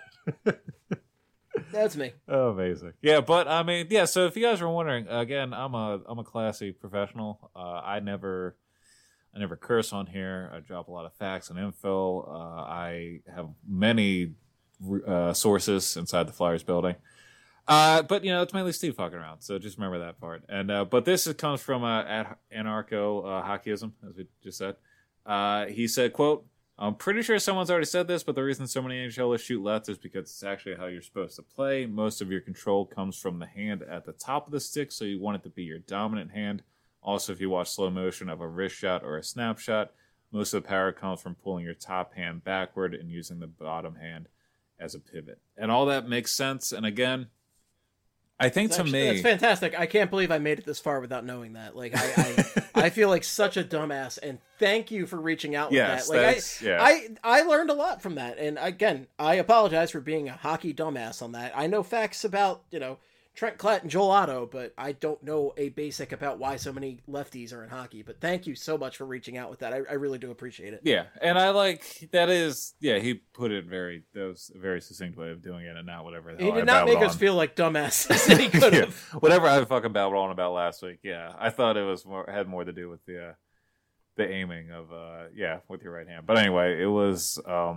That's me. Oh, amazing. Yeah, but I mean, yeah. So if you guys were wondering, again, I'm a classy professional. I never curse on here. I drop a lot of facts and info. I have many sources inside the Flyers building. But it's mainly Steve fucking around. So just remember that part. And but this comes from anarcho hockeyism, as we just said. He said, "Quote: I'm pretty sure someone's already said this, but the reason so many NHLers shoot left is because it's actually how you're supposed to play. Most of your control comes from the hand at the top of the stick, so you want it to be your dominant hand. Also, if you watch slow motion of a wrist shot or a snapshot, most of the power comes from pulling your top hand backward and using the bottom hand as a pivot." And all that makes sense. And again, I think that's fantastic. I can't believe I made it this far without knowing that. Like, I feel like such a dumbass, and thank you for reaching out with that. Like, I learned a lot from that. And again, I apologize for being a hockey dumbass on that. I know facts about, Trent Klett and Joel Otto, but I don't know a basic about why so many lefties are in hockey. But thank you so much for reaching out with that. I really do appreciate it. Yeah, and I like that is he put it that was a very succinct way of doing it, and not whatever the hell he did not make us feel like dumbasses. And he could have whatever I fucking babbled on about last week. Yeah, I thought it was had more to do with the aiming of with your right hand. But anyway, it was I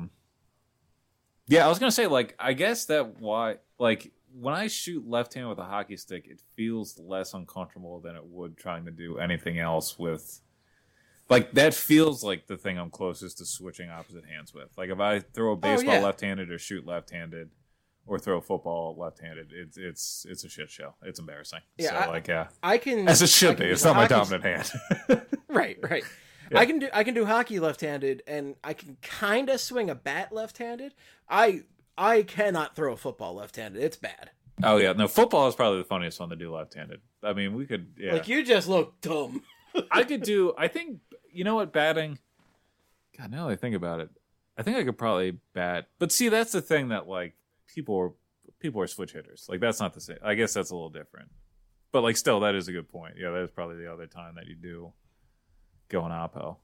was gonna say, like, I guess that why, like, when I shoot left-handed with a hockey stick, it feels less uncomfortable than it would trying to do anything else with. Like, that feels like the thing I'm closest to switching opposite hands with. Like, if I throw a baseball left-handed or shoot left-handed or throw a football left-handed, it's a shit show. It's embarrassing. Yeah, so, I can, as it should be. It's not my dominant hand. Right. Yeah. I can do hockey left-handed, and I can kind of swing a bat left-handed. I cannot throw a football left-handed. It's bad. Oh, yeah. No, football is probably the funniest one to do left-handed. I mean, we could, Like, you just look dumb. I think, batting, God, now that I think about it, I think I could probably bat. But see, that's the thing that, like, people are switch hitters. Like, that's not the same. I guess that's a little different. But, like, still, that is a good point. Yeah, that is probably the other time that you do go in oppo.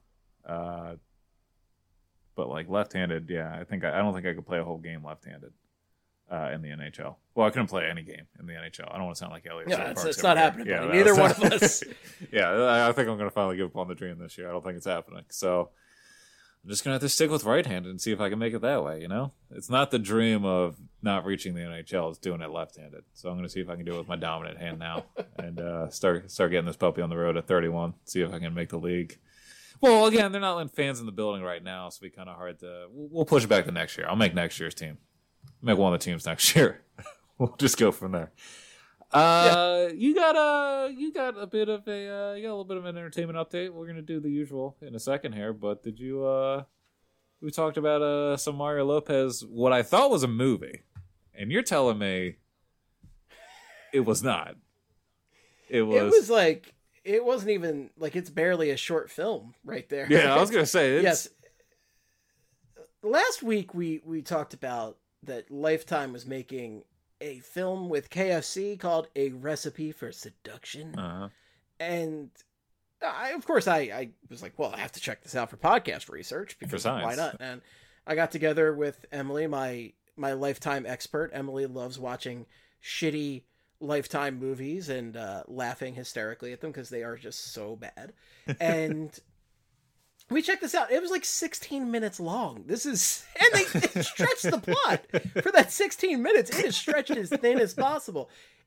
But, like, left-handed, I don't think I could play a whole game left-handed in the NHL. Well, I couldn't play any game in the NHL. I don't want to sound like Elliot. Yeah, it's not happening. Yeah, neither one of us. Yeah, I think I'm going to finally give up on the dream this year. I don't think it's happening. So I'm just going to have to stick with right-handed and see if I can make it that way, It's not the dream of not reaching the NHL. It's doing it left-handed. So I'm going to see if I can do it with my dominant hand now and start getting this puppy on the road at 31, see if I can make the league. Well, again, they're not letting fans in the building right now, so it'll be kind of hard to. We'll push it back to next year. I'll make next year's team. Make one of the teams next year. We'll just go from there. You got a little bit of an entertainment update. We're gonna do the usual in a second here, but did you? We talked about some Mario Lopez. What I thought was a movie, and you're telling me it was not. It was like. It wasn't even, like, it's barely a short film right there. Yeah, I was going to say. Yes. Last week, we talked about that Lifetime was making a film with KFC called A Recipe for Seduction. Uh-huh. And I was like, well, I have to check this out for podcast research. Because why not? And I got together with Emily, my Lifetime expert. Emily loves watching shitty Lifetime movies and laughing hysterically at them because they are just so bad. And we checked this out. It was like 16 minutes long. And they stretched the plot for that 16 minutes. It is stretched as thin as possible.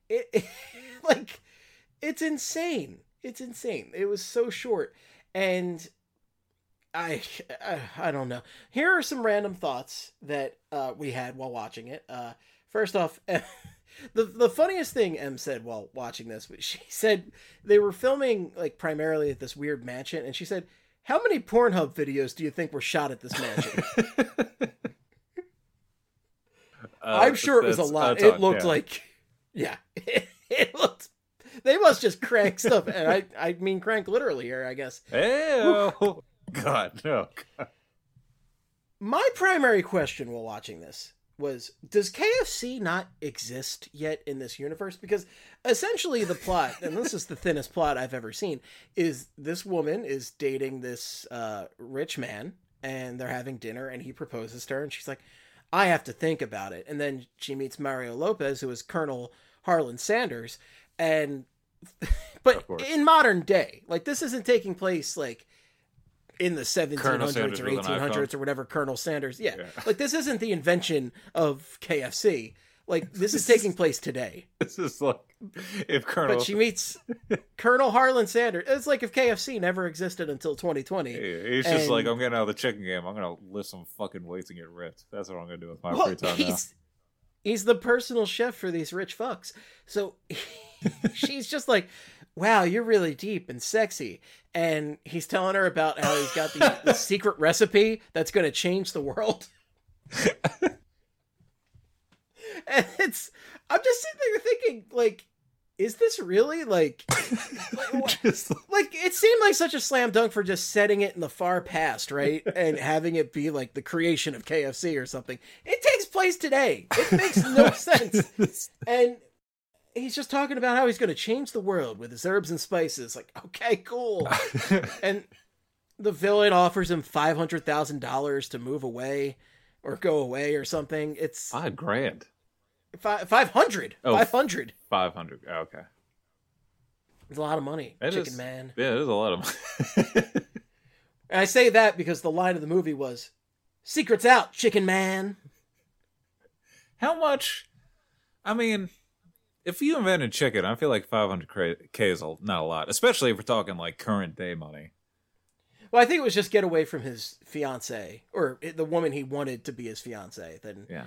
It's insane. It's insane. It was so short. And I don't know. Here are some random thoughts that we had while watching it. First off, the funniest thing Em said while watching this, she said they were filming, like, primarily at this weird mansion, and she said, "How many Pornhub videos do you think were shot at this mansion?" I'm sure it was a lot. It looked like, it looked. They must just crank stuff, and I mean crank literally here, I guess. Oh God, no. God. My primary question while watching this was, does KFC not exist yet in this universe? Because essentially the plot, and this is the thinnest plot I've ever seen, is this woman is dating this rich man, and they're having dinner, and he proposes to her, and she's like, I have to think about it. And then she meets Mario Lopez, who is Colonel Harlan Sanders, and but in modern day, like, this isn't taking place like in the 1700s or 1800s or whatever. Colonel Sanders, yeah, like, this isn't the invention of KFC. Like, this is taking place today. This is like if Colonel... But she meets Colonel Harlan Sanders. It's like if KFC never existed until 2020. He's just like, I'm getting out of the chicken game. I'm going to lift some fucking weights and get ripped. That's what I'm going to do with my free time now. He's the personal chef for these rich fucks. So she's just like, wow, you're really deep and sexy. And he's telling her about how he's got the secret recipe that's going to change the world. And I'm just sitting there thinking, like, is this really, like, like, it seemed like such a slam dunk for just setting it in the far past, right? And having it be, like, the creation of KFC or something. It takes place today. It makes no sense. And he's just talking about how he's going to change the world with his herbs and spices. Like, okay, cool. And the villain offers him $500,000 to move away or go away or something. It's $5,000. 500. Oh, 500. 500. Oh, okay. It's a lot of money. Chicken Man. Yeah, it is a lot of money. And I say that because the line of the movie was, "Secret's out, Chicken Man." How much? I mean, if you invented chicken, I feel like 500K is not a lot, especially if we're talking like current day money. Well, I think it was just get away from his fiance, or the woman he wanted to be his fiance,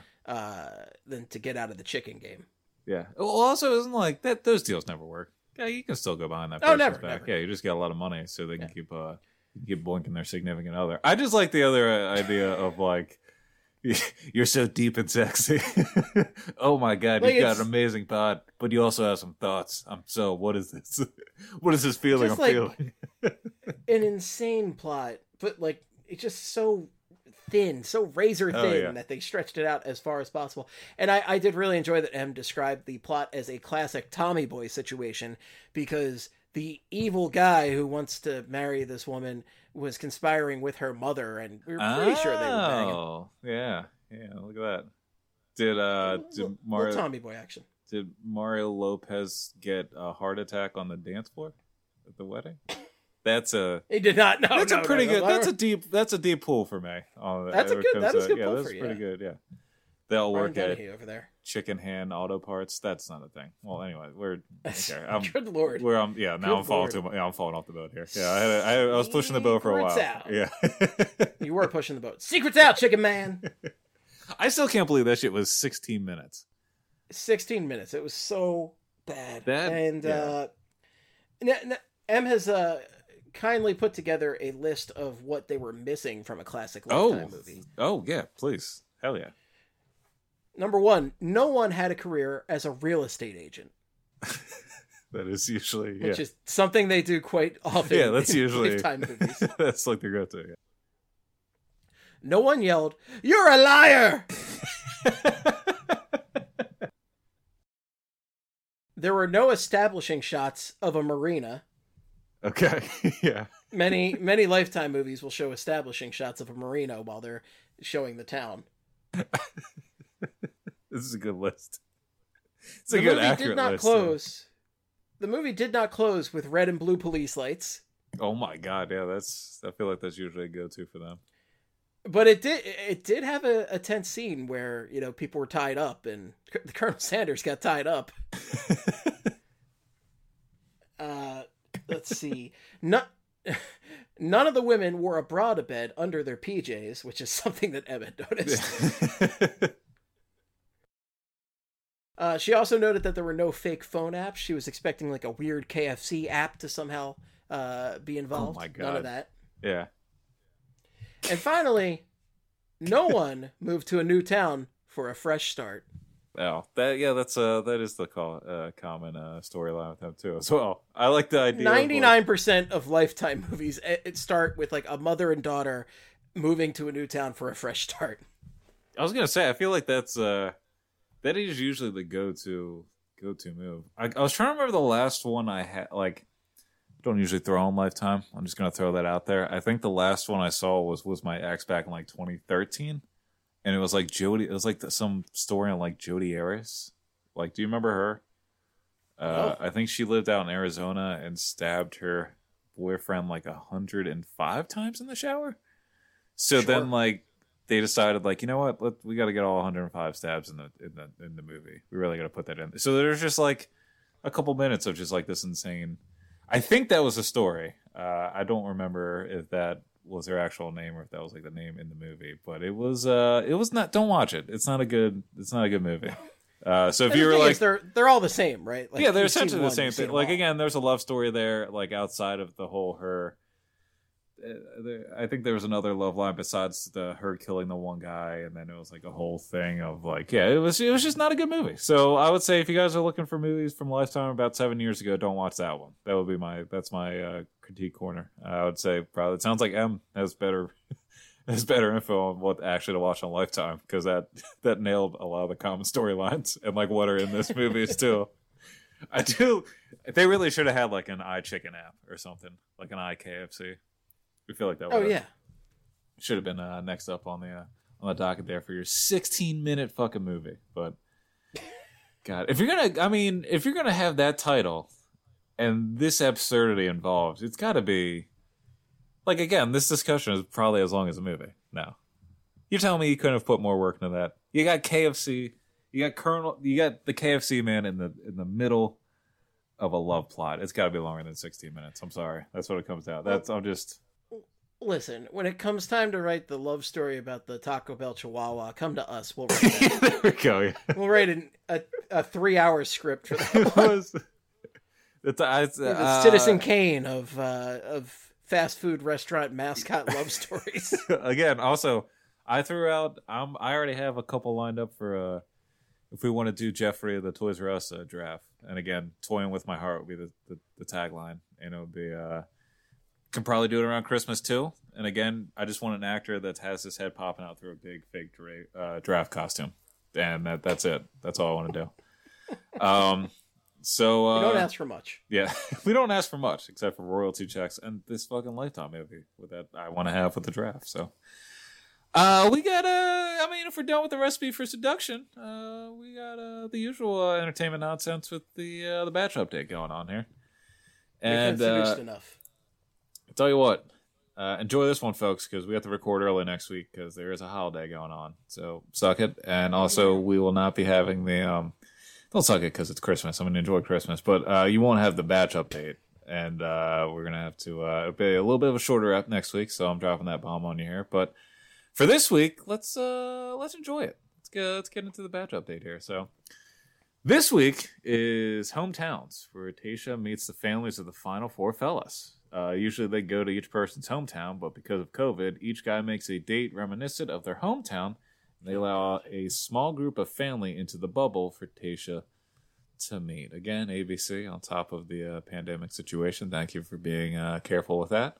than to get out of the chicken game. Yeah. Well, also, isn't like that? Those deals never work. Yeah, you can still go behind that person's back. Never. Yeah, you just get a lot of money, so they can keep blinking their significant other. I just like the other idea of like, you're so deep and sexy. Oh my god, like, you've got an amazing pod, but you also have some thoughts. What is this? What is this feeling I'm feeling? An insane plot, but like, it's just so thin, so razor thin that they stretched it out as far as possible. And I did really enjoy that M described the plot as a classic Tommy Boy situation, because the evil guy who wants to marry this woman was conspiring with her mother, and we were pretty sure they were banging. Oh, yeah, look at that. Did Mario Tommy Boy action? Did Mario Lopez get a heart attack on the dance floor at the wedding? He did not. No, that's a pretty good. That's a deep pull for me. That's a good. That is a good pull for you. That's pretty good. Yeah, they'll work at over there. Chicken Hand Auto Parts. That's not a thing. Well, anyway, we're okay. Good lord. I'm falling off the boat here. Yeah, I was pushing the boat for a while. Out. Yeah, you were pushing the boat. Secret's out, Chicken Man. I still can't believe that shit was 16 minutes. 16 minutes. It was so bad. M has kindly put together a list of what they were missing from a classic Lifetime movie. Oh, yeah, please. Hell yeah. Number one, no one had a career as a real estate agent. That is usually, which is something they do quite often. Yeah, that's usually Lifetime movies. That's like their go-to. Yeah. No one yelled, "You're a liar!" There were no establishing shots of a marina. Okay, yeah. Many Lifetime movies will show establishing shots of a marina while they're showing the town. This is a good list. It's a good, accurate list. The movie did not close with red and blue police lights. Oh my god, yeah, I feel like that's usually a go-to for them. But it did have a tense scene where, people were tied up, and Colonel Sanders got tied up. Let's see. None of the women wore a bra to bed under their PJs, which is something that Emmett noticed. She also noted that there were no fake phone apps. She was expecting like a weird KFC app to somehow be involved. Oh my god. None of that. Yeah. And finally, no one moved to a new town for a fresh start. Oh, that is the common storyline with them too as well. I like the idea. 99% of Lifetime movies it start with like a mother and daughter moving to a new town for a fresh start. I was gonna say, I feel like that is usually the go-to move. I was trying to remember the last one I had. Like, I don't usually throw on Lifetime. I'm just gonna throw that out there. I think the last one I saw was my ex back in like 2013, and it was like Jody. It was like some story on like Jodi Arias. Like, do you remember her? I think she lived out in Arizona and stabbed her boyfriend like 105 times in the shower. So then, like, they decided, like, you know what? We got to get all 105 stabs in the movie. We really got to put that in. So there's just like a couple minutes of just like this insane. I think that was the story. I don't remember if that was their actual name or if that was like the name in the movie. But it was not. Don't watch it. It's not a good movie. So if you were like, they're all the same, right? Like, yeah, they're essentially the same thing. Like, again, there's a love story there, like outside of the whole her. I think there was another love line besides her killing the one guy, and then it was like a whole thing of like, yeah, it was just not a good movie. So I would say if you guys are looking for movies from Lifetime about 7 years ago, don't watch that one. That would be my critique corner. I would say probably it sounds like M has better info on what actually to watch on Lifetime, because that nailed a lot of the common storylines and like what are in this movie too. They really should have had like an iChicken app or something, like an iKFC. We feel like that. Should have been next up on the docket there for your 16-minute fucking movie. But God, if you're gonna have that title and this absurdity involved, it's got to be like, again, this discussion is probably as long as a movie. No, you're telling me you couldn't have put more work into that? You got KFC, you got the KFC man in the middle of a love plot. It's got to be longer than 16 minutes. I'm sorry, that's what it comes down. Listen, when it comes time to write the love story about the Taco Bell Chihuahua, come to us. We'll write that. There we go. Yeah. We'll write a 3-hour script for that. The Citizen Kane of fast food restaurant mascot love stories. Again, also, I threw out. I already have a couple lined up for if we want to do Jeffrey the Toys R Us draft. And again, toying with my heart would be the tagline, and it would be. Can probably do it around Christmas too. And again, I just want an actor that has his head popping out through a big fake draft costume, and that's it. That's all I want to do. So we don't ask for much. Yeah, we don't ask for much except for royalty checks and this fucking Lifetime movie with that I want to have with the draft. So we got if we're done with the recipe for seduction, we got the usual entertainment nonsense with the batch update going on here. And seduced enough. Tell you what, enjoy this one, folks, because we have to record early next week because there is a holiday going on. So suck it. And also, we will not be having the don't suck it because it's Christmas. I'm going to enjoy Christmas, but you won't have the batch update, and we're going to have to be a little bit of a shorter up next week. So I'm dropping that bomb on you here. But for this week, let's enjoy it. Let's get into the batch update here. So this week is Hometowns, where Tayshia meets the families of the final four fellas. Usually they go to each person's hometown, but because of COVID, each guy makes a date reminiscent of their hometown, and they allow a small group of family into the bubble for Tayshia to meet. Again, ABC on top of the pandemic situation. Thank you for being careful with that.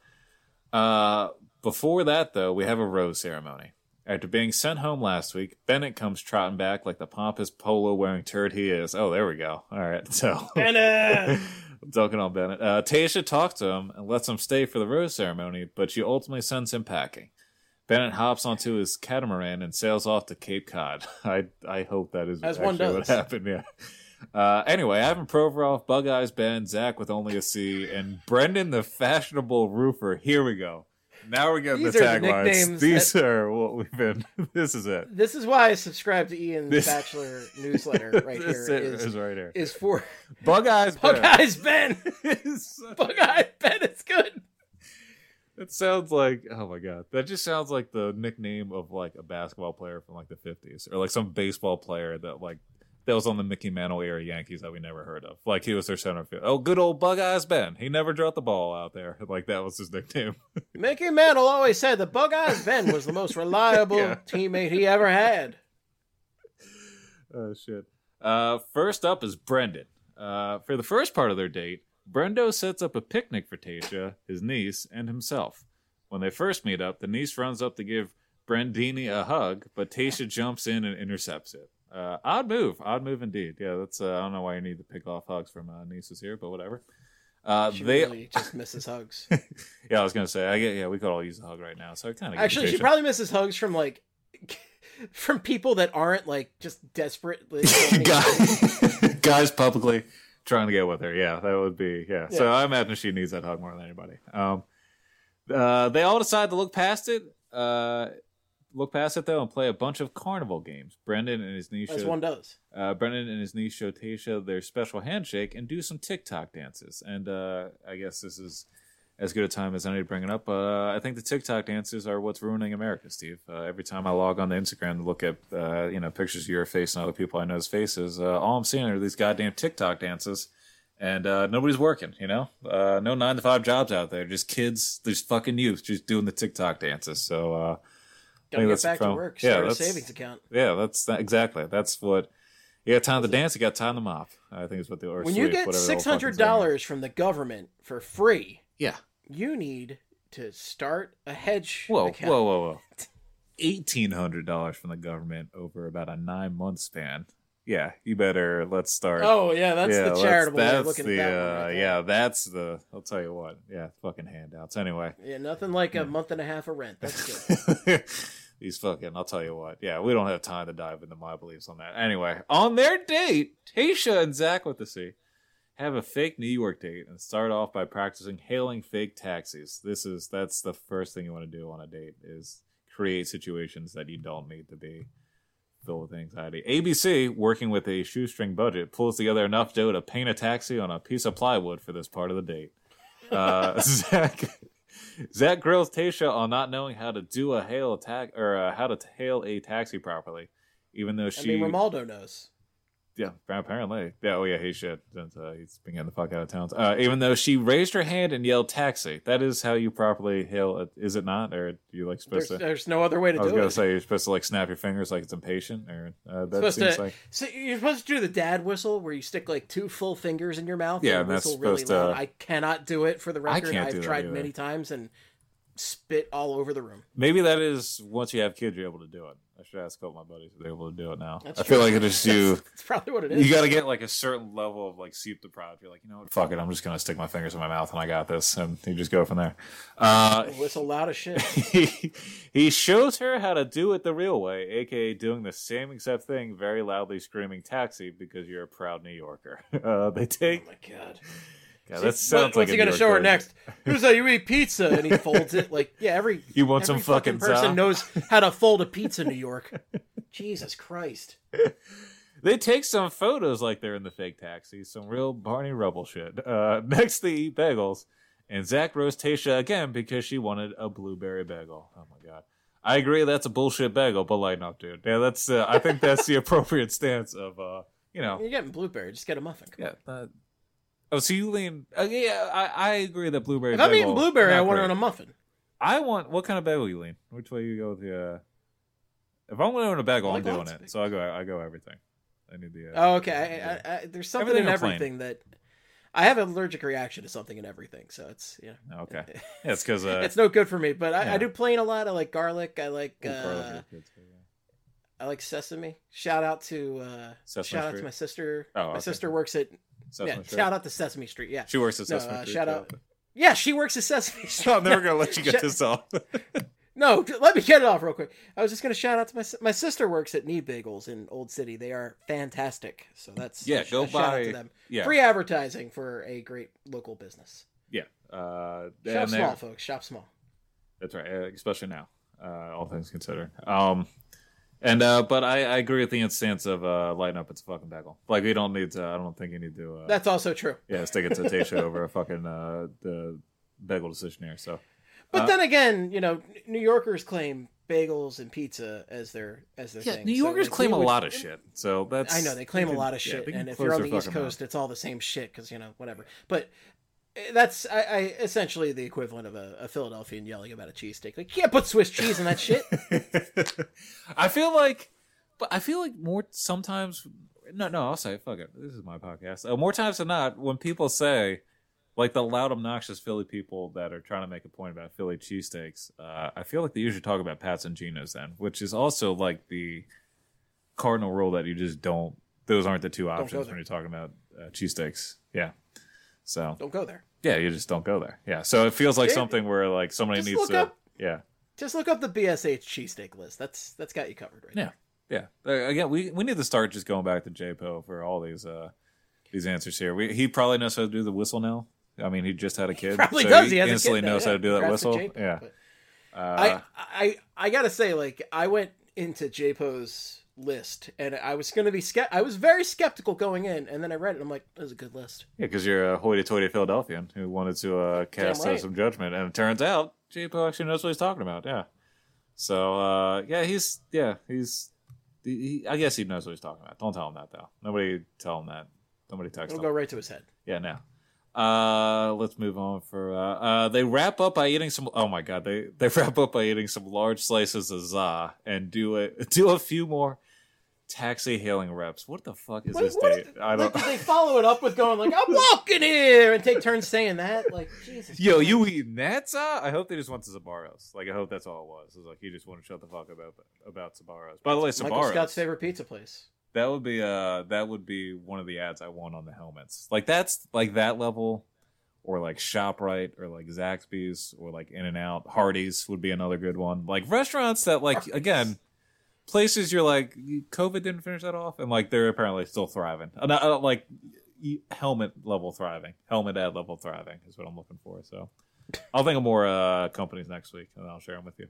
Before that, though, we have a rose ceremony. After being sent home last week, Bennett comes trotting back like the pompous polo-wearing turd he is. Oh, there we go. All right, so... Bennett! Dunking on Bennett. Tayshia talks to him and lets him stay for the rose ceremony, but she ultimately sends him packing. Bennett hops onto his catamaran and sails off to Cape Cod. I hope that is actually what happened. Yeah. Anyway, Ivan Provorov, Bug Eyes Ben, Zach with only a C, and Brendan the fashionable roofer. Here we go. Now we're getting the taglines. These are what we've been. This is it. This is why I subscribe to Ian's Bachelor newsletter right here. Is right here. Is for Bug Eyes Ben. Bug Eyes Ben. Bug Eyes Ben. It's good. It sounds like, oh my God, that just sounds like the nickname of like a basketball player from like the 50s, or like some baseball player that was on the Mickey Mantle era Yankees that we never heard of. Like he was their center field. Oh, good old Bug Eyes Ben. He never dropped the ball out there. Like that was his nickname. Mickey Mantle always said that Bug Eyes Ben was the most reliable teammate he ever had. Oh, shit. First up is Brendan. For the first part of their date, Brendo sets up a picnic for Tayshia, his niece, and himself. When they first meet up, the niece runs up to give Brandini a hug, but Tayshia jumps in and intercepts it. Odd move indeed. Yeah, that's I don't know why you need to pick off hugs from nieces here, but whatever. She really just misses hugs. Yeah, I was gonna say, we could all use a hug right now. So I kind of actually, she probably misses hugs from like from people that aren't like just desperate guys publicly trying to get with her. Yeah, that would be So I imagine she needs that hug more than anybody. They all decide to look past it. Though and play a bunch of carnival games. Brendan and his niece as one does. Brendan and his niece show Tayshia their special handshake and do some TikTok dances. And I guess this is as good a time as any to bring it up. I think the TikTok dances are what's ruining America, Steve. Every time I log on to Instagram to look at pictures of your face and other people I know's faces, all I'm seeing are these goddamn TikTok dances. And nobody's working, no 9-to-5 jobs out there. Just kids, there's fucking youth just doing the TikTok dances. So gotta get back to work. Start a savings account. Yeah, exactly. That's what you got time to dance. You got time to mop. I think is what the when you get $600 from the government for free. Yeah, you need to start a hedge. Whoa. $1,800 from the government over about a 9-month span. Yeah, you better. Let's start. Oh yeah, that's the charitable way of looking at that one right there. That's the. I'll tell you what. Yeah, fucking handouts. Anyway. Yeah, nothing like a month and a half of rent. That's good. These fucking. I'll tell you what. Yeah, we don't have time to dive into my beliefs on that. Anyway, on their date, Tayshia and Zach with the C have a fake New York date and start off by practicing hailing fake taxis. That's the first thing you want to do on a date is create situations that you don't need to be filled with anxiety. ABC, working with a shoestring budget, pulls together enough dough to paint a taxi on a piece of plywood for this part of the date. Zach grills Tayshia on not knowing how to do how to hail a taxi properly, even though Romaldo knows. Yeah, apparently. Yeah, oh yeah, he should. He's been getting the fuck out of town. Even though she raised her hand and yelled taxi. That is how you properly hail it, is it not? Or are you supposed to... There's no other way to do it. I was going to say, you're supposed to snap your fingers like it's impatient? Or that seems like... So you're supposed to do the dad whistle where you stick 2 full fingers in your mouth and whistle that's really supposed loud. I cannot do it for the record. I've tried many times and spit all over the room. Maybe that is, once you have kids, you're able to do it. I should ask a couple of my buddies if they're able to do it now. I feel like it is you. That's probably what it is. You got to get a certain level of sleep deprived. You're you know what? Fuck it. I'm just going to stick my fingers in my mouth and I got this. And you just go from there. Whistle loud as shit. He shows her how to do it the real way, aka doing the same exact thing, very loudly screaming taxi because you're a proud New Yorker. They take. Oh my God. Yeah, that sounds what's he going to show her next? Here's how you eat pizza, and he folds it every. You want some fucking person knows how to fold a pizza in New York. Jesus Christ! They take some photos like they're in the fake taxi, some real Barney Rubble shit. Next, they eat bagels, and Zach roasts Tayshia again because she wanted a blueberry bagel. Oh my God! I agree that's a bullshit bagel, but lighten up, dude. Yeah, that's. I think that's the appropriate stance of. You're getting blueberry. Just get a muffin. Come on. Oh, so you lean... I agree that blueberry If I'm eating blueberry, I want it on a muffin. What kind of bagel you lean? Which way you go with the... If I'm going to a bagel, I'm doing it. So I go everything. I need the... okay. There's something in everything that... I have an allergic reaction to something in everything, so it's... Okay. Yeah, it's because... it's no good for me, but I do plain a lot. I like garlic. I like... garlic is good too, I like sesame. Shout out to my sister. Oh, my sister works at... Sesame Street. Shout out to Sesame Street. Yeah, she works at Sesame Street. Shout out. Yeah, she works at Sesame Street. I'm never gonna let you get this off. No, let me get it off real quick. I was just gonna shout out to my sister works at Need Bagels in Old City. They are fantastic. So that's go buy. Shout out to them. Yeah. Free advertising for a great local business. Yeah. Shop small, folks. Shop small. That's right, especially now. All things considered. But I agree with the instance of lighten up. It's a fucking bagel. We don't need to. I don't think you need to. That's also true. Yeah, stick it to Tayshia over a fucking the bagel decision here. So, but then again, New Yorkers claim bagels and pizza as their thing. New Yorkers claim a lot of shit. So that's I know they claim a lot of shit, and if you're on the East Coast, it's all the same shit because whatever. But that's I essentially the equivalent of a Philadelphian yelling about a cheesesteak. You can't put Swiss cheese in that shit. I feel like more sometimes. No, I'll say fuck it. This is my podcast. More times than not, when people say, like the loud, obnoxious Philly people that are trying to make a point about Philly cheesesteaks, I feel like they usually talk about Pat's and Geno's then, which is also like the cardinal rule that you just don't. Those aren't the two options when you're talking about cheesesteaks. Yeah, so don't go there. Yeah, you just don't go there. Yeah, so it feels like something where like somebody needs to. Yeah. Just look up the BSH cheesesteak list. That's got you covered right now. Yeah. Again, we need to start just going back to JPO for all these answers here. He probably knows how to do the whistle now. I mean, he just had a kid. He probably so does. He has instantly a kid knows how to do that whistle. JPO, yeah. I gotta say, like, I went into JPO's list and I was gonna be I was very skeptical going in, and then I read it and I'm like, this is a good list. Yeah, because you're a hoity-toity Philadelphian who wanted to cast some judgment, and it turns out JPO actually knows what he's talking about. Yeah. So I guess he knows what he's talking about. Don't tell him that though. Nobody tell him that. Nobody text him. It'll go right to his head. Yeah, now. Let's move on for they wrap up by eating some they wrap up by eating some large slices of za and do a few more taxi hailing reps. What the fuck is this date? I don't. Did they follow it up with going like, "I'm walking here," and take turns saying that? Like, Jesus. Yo, you eating that? I hope they just went to Sbarro's. Like, I hope that's all it was. It was like he just wanted to shut the fuck about Sbarro's. By the way, Sbarro's, Michael Scott's favorite pizza place. That would be one of the ads I want on the helmets. Like that's like that level, or like ShopRite, or like Zaxby's, or like In-N-Out. Hardee's would be another good one. Like restaurants that like again. Places you're like, COVID didn't finish that off, and like they're apparently still thriving. Like helmet level thriving, helmet ad level thriving is what I'm looking for. So I'll think of more companies next week, and I'll share them with you.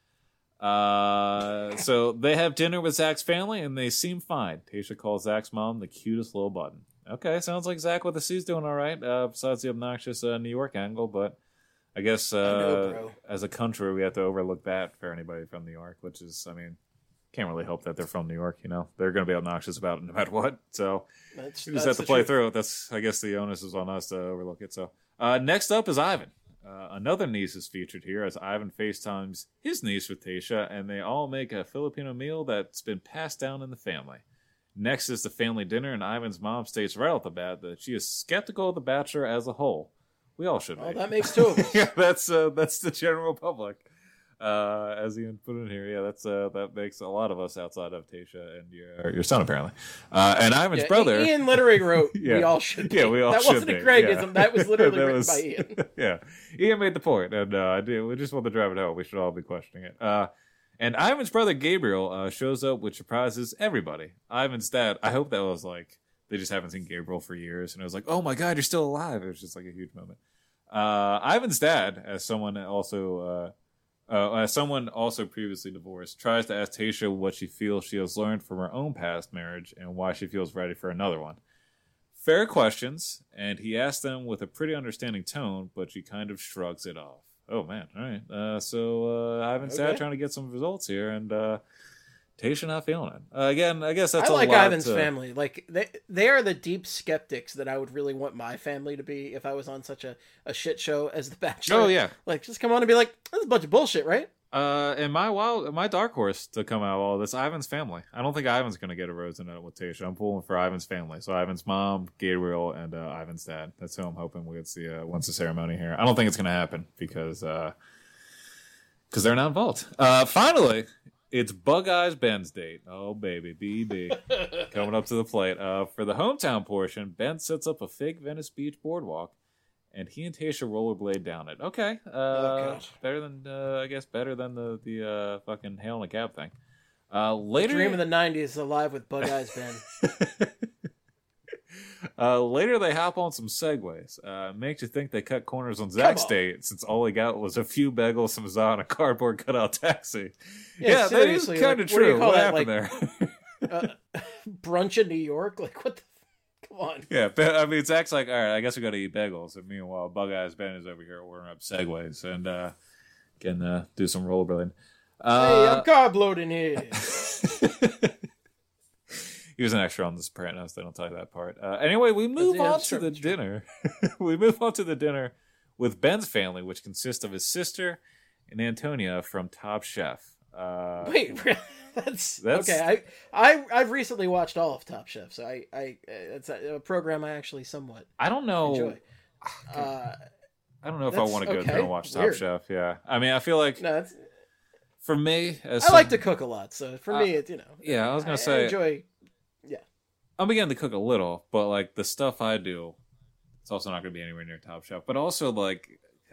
So they have dinner with Zach's family, and they seem fine. Tasha calls Zach's mom the cutest little button. Okay, sounds like Zach with the C's doing all right, besides the obnoxious New York angle, but I guess as a country, we have to overlook that for anybody from New York, which is, I mean, can't really hope that they're from New York, you know. They're going to be obnoxious about it no matter what. So you just have to play through it. That's, I guess, the onus is on us to overlook it. So next up is Ivan. Another niece is featured here as Ivan FaceTimes his niece with Tasha, and they all make a Filipino meal that's been passed down in the family. Next is the family dinner, and Ivan's mom states right off the bat that she is skeptical of The Bachelor as a whole. We all should be. Oh, that makes two of us. Yeah, that's the general public. As Ian put in here, that makes a lot of us outside of Tasha and your son apparently, and Ivan's brother. Ian literally wrote, "We all should be." Yeah, we all that should wasn't be. a Craigism. That was literally that written by Ian. Yeah, Ian made the point, and we just want to drive it home. We should all be questioning it. And Ivan's brother Gabriel shows up, which surprises everybody. Ivan's dad. I hope that was like they just haven't seen Gabriel for years, and it was like, "Oh my God, you're still alive!" It was just like a huge moment. Ivan's dad, as someone also previously divorced, tries to ask Tasha what she feels she has learned from her own past marriage and why she feels ready for another one. Fair questions, and he asks them with a pretty understanding tone, but she kind of shrugs it off. Oh, man. All right. So Ivan's dad trying to get some results here, and Tasha not feeling it. Again, I guess that's I a like lot Ivan's family. Like they are the deep skeptics that I would really want my family to be if I was on such a shit show as The Bachelor. Oh yeah, like just come on and be like, "That's a bunch of bullshit," right? And my dark horse to come out of all this, Ivan's family. I don't think Ivan's going to get a rose in it with Tasha. I'm pulling for Ivan's family. So Ivan's mom, Gabriel, and Ivan's dad. That's who I'm hoping we'll get to see once the ceremony here. I don't think it's going to happen because they're not involved. Finally. It's Bug Eyes Ben's date. Oh, baby. BB. Coming up to the plate. For the hometown portion, Ben sets up a fake Venice Beach boardwalk, and he and Tasha rollerblade down it. Okay. Better than the fucking hail in a cab thing. Later, the dream of the 90s is alive with Bug Eyes Ben. Later, they hop on some segways. Makes you think they cut corners on Zach's date, since all he got was a few bagels, some za, and a cardboard cutout taxi. Yeah, that is kind of true. What happened there? Brunch in New York? Like, what the... Come on. Yeah, I mean, Zach's like, all right, I guess we got to eat bagels. And meanwhile, Bug Eyes Ben is over here ordering up segways and can do some rollerblading. Hey, I'm carb loading here. He was an extra on The Sopranos. They don't tell you that part. Anyway, we move on to the dinner. We move on to the dinner with Ben's family, which consists of his sister and Antonia from Top Chef. Wait, that's okay. I've recently watched all of Top Chef, so I it's a program I actually somewhat I don't know. enjoy. I don't know if I want to go through and watch Top Chef. Yeah, I mean, I feel like for me, I like to cook a lot, so for me, it's Yeah, I was gonna say, I enjoy. Yeah, I'm beginning to cook a little, but like the stuff I do, it's also not gonna be anywhere near Top Chef. But also like,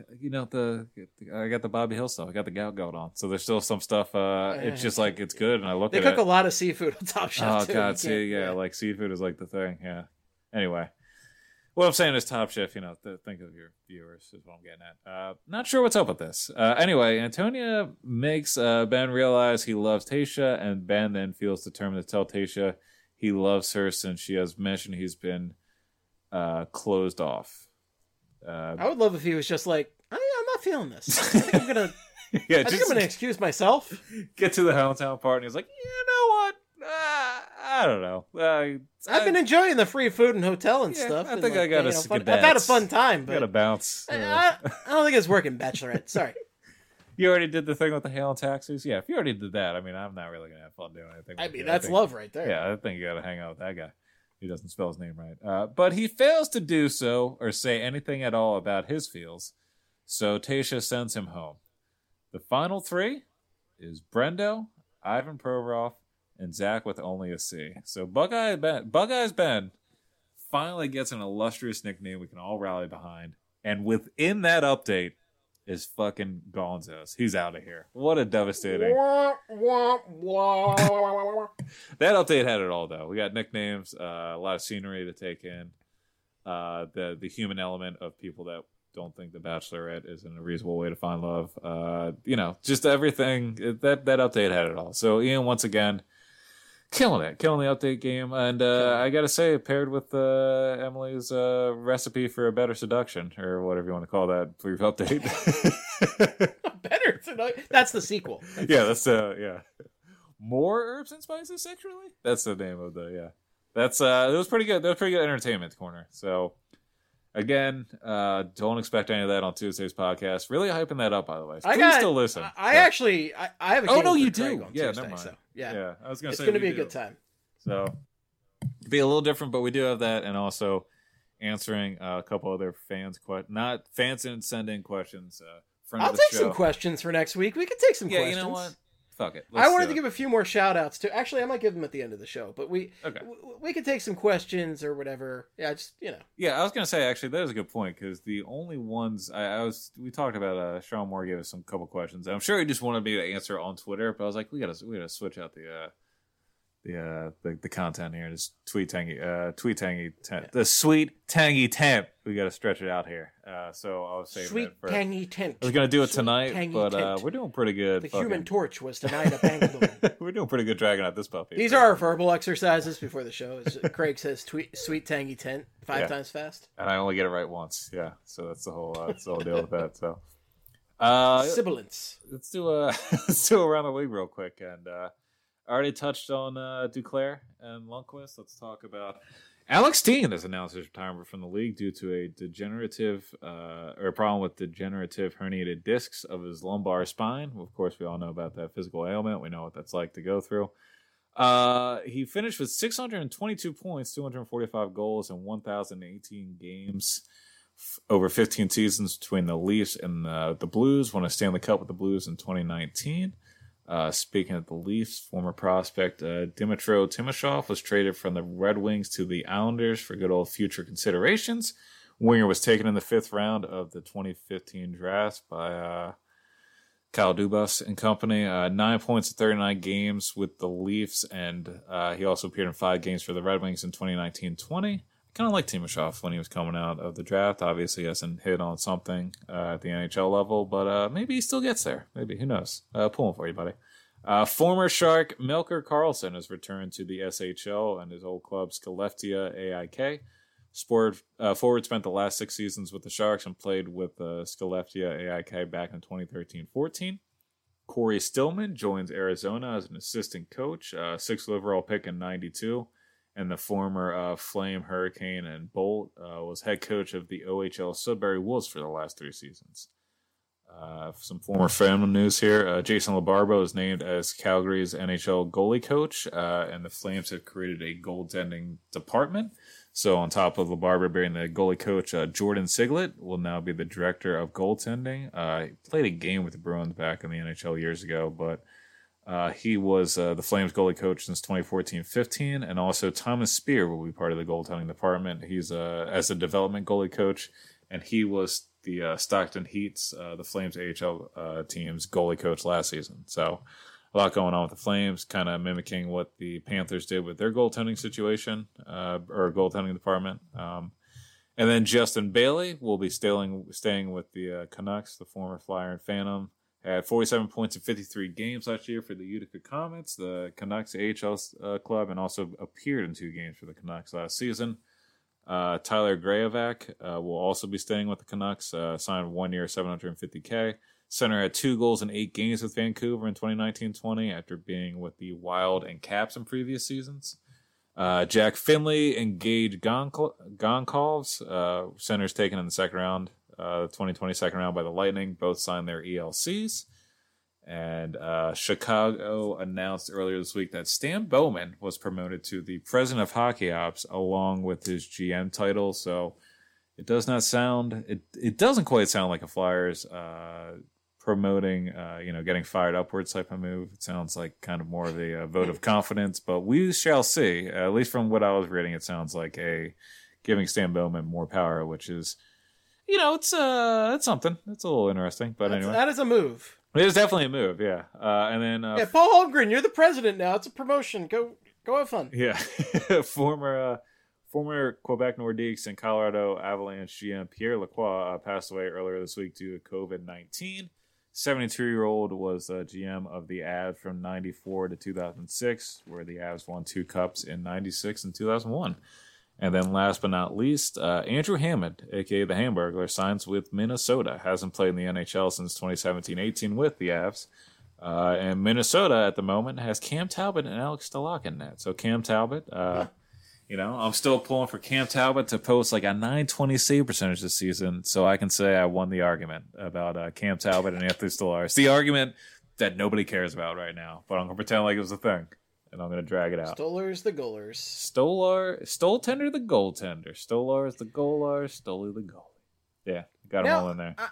I got the Bobby Hill stuff. I got the gout going on, so there's still some stuff. It's just like it's good, and I look at it. They cook a lot of seafood on Top Chef. Oh God, like seafood is like the thing. Yeah. Anyway, what I'm saying is Top Chef. Think of your viewers is what I'm getting at. Not sure what's up with this. Anyway, Antonia makes Ben realize he loves Tayshia, and Ben then feels determined to tell Tayshia he loves her since she has mentioned he's been closed off. I would love if he was just like, I'm not feeling this. I think I'm gonna. I think I'm gonna excuse myself. Get to the Helltown part, and he's like, you know what? I don't know. I've been enjoying the free food and hotel and stuff. I think I got to. I've had a fun time, but got to bounce. I don't think it's working, Bachelorette. Sorry. You already did the thing with the hail and taxis? Yeah, if you already did that, I mean, I'm not really going to have fun doing anything. I mean, that's love right there. Yeah, I think you got to hang out with that guy. He doesn't spell his name right. But he fails to do so or say anything at all about his feels, so Tayshia sends him home. The final three is Brendo, Ivan Provorov, and Zach with only a C. So Bug-Eyes Ben finally gets an illustrious nickname we can all rally behind. And within that update is fucking Gonzos. He's out of here. What a devastating. That update had it all, though. We got nicknames, a lot of scenery to take in, the human element of people that don't think The Bachelorette is a reasonable way to find love. Just everything. That update had it all. So Ian, once again, killing the update game. And I gotta say, paired with Emily's recipe for a better seduction, or whatever you want to call that brief update. Better seduction? That's the sequel. That's More Herbs and Spices Sexually? That's the name of the, That's, it was pretty good. That was pretty good entertainment corner. So, again, don't expect any of that on Tuesday's podcast. Really hyping that up, by the way. So please still listen. I have a game you do. On Tuesday, never mind. So, yeah. I was going to say it's going to be a good time. So, it'll be a little different, but we do have that, and also answering a couple other fans didn't send in questions. I'll take some questions for next week. We could take some questions. Yeah, you know what? Fuck it. I wanted to give a few more shout outs to. Actually, I might give them at the end of the show, but we could take some questions or whatever. Yeah, Yeah, I was gonna say actually that is a good point because the only ones we talked about. Sean Moore gave us some couple questions. I'm sure he just wanted me to answer on Twitter, but I was like, we gotta switch out the content here. Just the sweet tangy temp. We got to stretch it out here. So I was saying sweet tangy temp. I was going to do it tonight, but we're doing pretty good. The Human Torch was tonight a Bangalore. We're doing pretty good dragging out this puppy. These are our verbal exercises before the show. Craig says sweet tangy tent 5 times fast, and I only get it right once. Yeah, so that's the whole deal with that. So sibilance. Let's do around the league real quick and. I already touched on Duclair and Lundqvist. Let's talk about Alex Steen has announced his retirement from the league due to a problem with degenerative herniated discs of his lumbar spine. Of course, we all know about that physical ailment. We know what that's like to go through. He finished with 622 points, 245 goals, and 1,018 games over 15 seasons between the Leafs and the Blues. Won a Stanley Cup with the Blues in 2019. Speaking of the Leafs, former prospect Dmytro Timashov was traded from the Red Wings to the Islanders for good old future considerations. Winger was taken in the 5th round of the 2015 draft by Kyle Dubas and company. 9 points in 39 games with the Leafs, and he also appeared in 5 games for the Red Wings in 2019-20. Kind of like Timashov when he was coming out of the draft. Obviously, he hasn't hit on something at the NHL level, but maybe he still gets there. Maybe, who knows? Pulling for you, buddy. Former Shark Melker Karlsson has returned to the SHL and his old club Skellefteå AIK. Forward spent the last 6 seasons with the Sharks and played with Skellefteå AIK back in 2013-14. Corey Stillman joins Arizona as an assistant coach, 6th overall pick in 92. And the former Flame, Hurricane, and Bolt was head coach of the OHL Sudbury Wolves for the last 3 seasons. Some former family news here. Jason LaBarba is named as Calgary's NHL goalie coach, and the Flames have created a goaltending department. So on top of LeBarber being the goalie coach, Jordan Siglett will now be the director of goaltending. He played a game with the Bruins back in the NHL years ago, but he was the Flames goalie coach since 2014-15, and also Thomas Spear will be part of the goaltending department. He's as a development goalie coach, and he was the Stockton Heat's, the Flames AHL team's goalie coach last season. So a lot going on with the Flames, kind of mimicking what the Panthers did with their goaltending situation, or goaltending department. And then Justin Bailey will be staying with the Canucks, the former Flyer and Phantom. Had 47 points in 53 games last year for the Utica Comets, the Canucks AHL club, and also appeared in 2 games for the Canucks last season. Tyler Graovac will also be staying with the Canucks, signed 1 year, $750K. Center had 2 goals in 8 games with Vancouver in 2019-20 after being with the Wild and Caps in previous seasons. Jack Finley and Gage Gonkalves, centers taken in the second round, 2020 second round by the Lightning, both signed their ELCs. And Chicago announced earlier this week that Stan Bowman was promoted to the president of hockey ops along with his GM title. So it does not sound, it doesn't quite sound like a Flyers promoting, getting fired upwards type of move. It sounds like kind of more of a vote of confidence, but we shall see. At least from what I was reading, it sounds like giving Stan Bowman more power, which is, it's something. It's a little interesting, but anyway. That is a move. It is definitely a move, yeah. And then Paul Holmgren, you're the president now. It's a promotion. Go have fun. Yeah. former Quebec Nordiques and Colorado Avalanche GM Pierre Lacroix passed away earlier this week due to COVID-19. 72-year-old was GM of the Avs from 94 to 2006, where the Avs won 2 cups in 96 and 2001. And then last but not least, Andrew Hammond, a.k.a. the Hamburglar, signs with Minnesota. Hasn't played in the NHL since 2017-18 with the Avs. And Minnesota at the moment has Cam Talbot and Alex Stalock in net. So Cam Talbot, I'm still pulling for Cam Talbot to post like a .920 save percentage this season, so I can say I won the argument about Cam Talbot and Anthony Stolar. It's the argument that nobody cares about right now, but I'm going to pretend like it was a thing. And I'm going to drag it out. Stoller's the goalers. Stoltender the goaltender. Stolar's the goaler. Stoli the goalie. Yeah, got them all in there.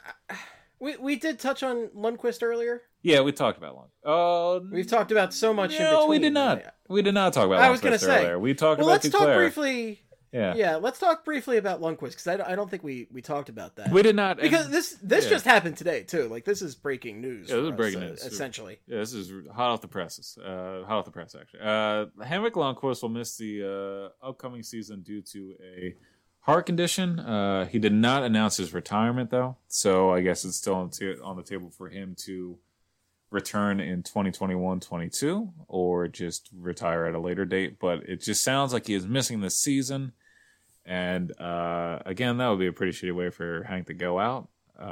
We did touch on Lundqvist earlier. Yeah, we talked about Lundqvist. We've talked about so much in between. No, we did not. We did not talk about Lundqvist earlier. We talked about Duclair. Let's talk briefly. Yeah, let's talk briefly about Lundqvist, because I don't think we talked about that. We did not. Because this just happened today, too. Like, this is breaking news. Yeah, this is breaking news. Essentially. Yeah, this is hot off the presses. Hot off the press, actually. Henrik Lundqvist will miss the upcoming season due to a heart condition. He did not announce his retirement, though. So I guess it's still on the table for him to return in 2021-22 or just retire at a later date. But it just sounds like he is missing this season. And again, that would be a pretty shitty way for Hank to go out.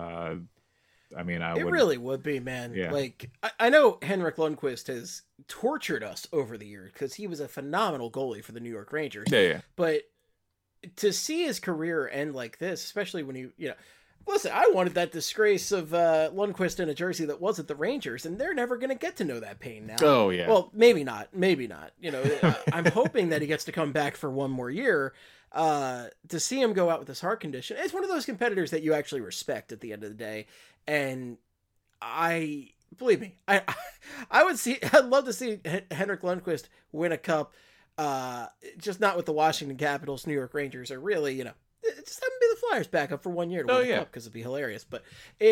It really would be, man. Yeah. Like, I know Henrik Lundqvist has tortured us over the years because he was a phenomenal goalie for the New York Rangers. Yeah. But to see his career end like this, especially when listen, I wanted that disgrace of Lundqvist in a jersey that wasn't the Rangers, and they're never going to get to know that pain now. Oh, yeah. Well, maybe not. I'm hoping that he gets to come back for one more year. To see him go out with this heart condition, it's one of those competitors that you actually respect at the end of the day. And believe me, I'd love to see Henrik Lundqvist win a cup, just not with the Washington Capitals, New York Rangers, or really, just have him be the Flyers backup for 1 year to win the cup, because it'd be hilarious. But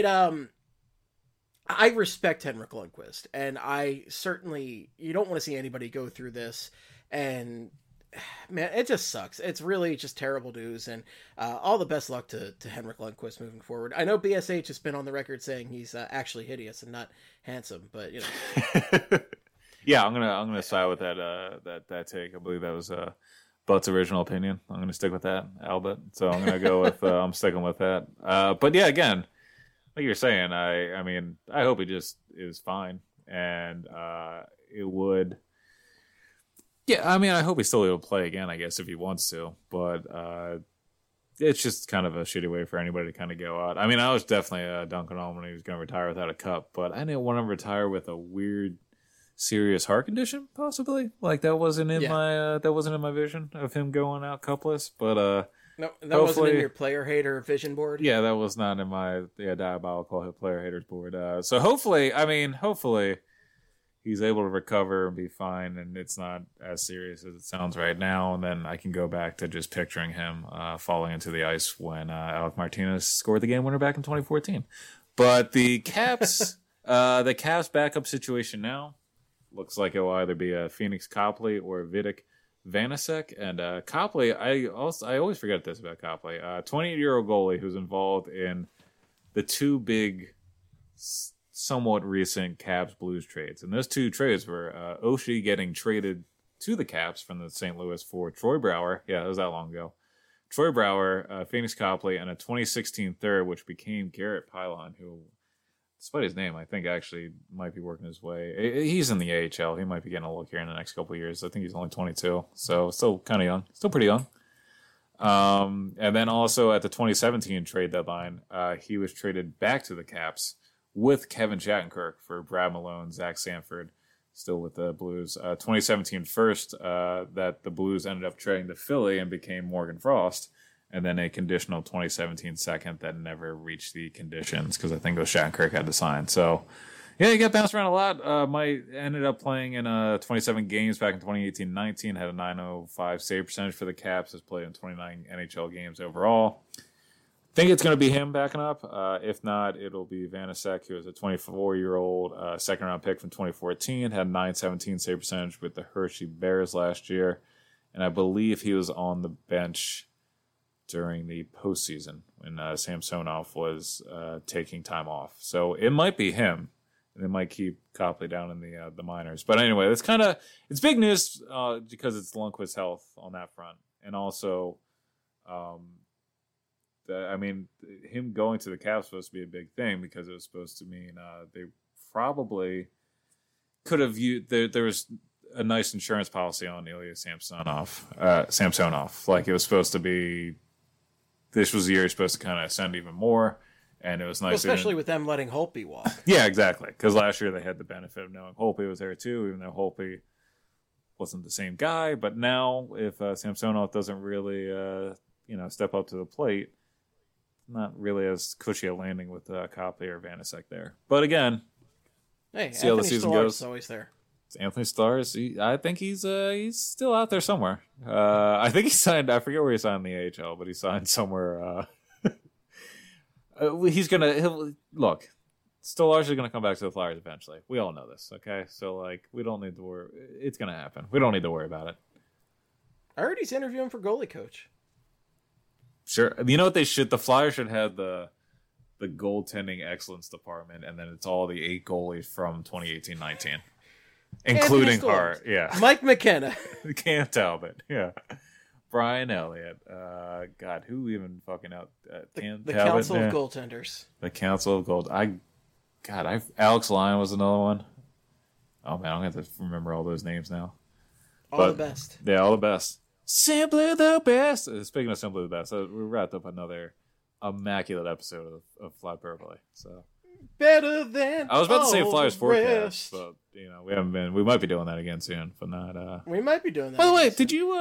I respect Henrik Lundqvist, and you don't want to see anybody go through this, and man, it just sucks. It's really just terrible news, and all the best luck to Henrik Lundqvist moving forward. I know BSH has been on the record saying he's actually hideous and not handsome, but Yeah, I'm gonna side with that take. I believe that was Butt's original opinion. I'm gonna stick with that, Albert. So I'm gonna go with I'm sticking with that. But yeah, again, like you're saying, I hope he just is fine, and it would. Yeah, I hope he's still able to play again, I guess, if he wants to. But it's just kind of a shitty way for anybody to kind of go out. I was definitely dunking on when he was going to retire without a cup, but I didn't want him to retire with a weird serious heart condition, possibly. Like that wasn't in my vision of him going out cupless. But no, that wasn't in your player hater vision board. Yeah, that was not in my diabolical player haters board. So hopefully he's able to recover and be fine, and it's not as serious as it sounds right now. And then I can go back to just picturing him falling into the ice when Alec Martinez scored the game winner back in 2014. But the Caps, the Caps backup situation now looks like it will either be a Phoenix Copley or Vitek Vanecek. And Copley, I always forget this about Copley, 28-year-old goalie who's involved in the two big, somewhat recent Caps Blues trades. And those two trades were Oshie getting traded to the Caps from the St. Louis for Troy Brouwer. Yeah, that was that long ago. Troy Brouwer, Phoenix Copley, and a 2016 third, which became Garrett Pylon, who, despite his name, I think actually might be working his way. He's in the AHL. He might be getting a look here in the next couple of years. I think he's only 22, so still kind of young. Still pretty young. And then also at the 2017 trade deadline, he was traded back to the Caps with Kevin Shattenkirk for Brad Malone, Zach Sanford, still with the Blues. 2017 first, that the Blues ended up trading to Philly and became Morgan Frost. And then a conditional 2017 second that never reached the conditions because I think it was Shattenkirk had to sign. So, yeah, he got bounced around a lot. Mike ended up playing in 27 games back in 2018-19, had a .905 save percentage for the Caps, has played in 29 NHL games overall. Think it's going to be him backing up. If not, it'll be Vanecek, who is a 24-year-old second-round pick from 2014, had .917 save percentage with the Hershey Bears last year, and I believe he was on the bench during the postseason when Samsonov was taking time off. So it might be him, and they might keep Copley down in the minors. But anyway, it's big news because it's Lundqvist's health on that front, and also. Him going to the Caps was supposed to be a big thing because it was supposed to mean they probably could have used. There was a nice insurance policy on Ilya Samsonov. Like it was supposed to be. This was the year you're supposed to kind of ascend even more, and it was nice. Well, especially with them letting Holtby walk. Yeah, exactly. Because last year they had the benefit of knowing Holtby was there too, even though Holtby wasn't the same guy. But now, if Samsonov doesn't really, step up to the plate. Not really as cushy a landing with Copley or Vanecek there. But again, hey, see how the season goes. Is always there. It's Anthony Stars. I think he's still out there somewhere. I think he signed. I forget where he signed in the AHL, but he signed somewhere. Look. Stolarz is going to come back to the Flyers eventually. We all know this, okay? So we don't need to worry. It's going to happen. We don't need to worry about it. I heard he's interviewing for goalie coach. Sure. You know what they should? The Flyers should have the goaltending excellence department, and then it's all the 8 goalies from 2018-19, including Hart. Yeah. Mike McKenna. Cam Talbot. Yeah. Brian Elliott. God, who even fucking out? The Council of Goaltenders. The Council of Gold. Alex Lyon was another one. Oh man, I'm going to have to remember all those names now. All the best. Yeah, all the best. Simply the best. Speaking of simply the best, we wrapped up another immaculate episode of Fly Purpley. So better than I was about to say Flyers forecast, but we haven't been. We might be doing that again soon, but not. We might be doing that. By the way, did you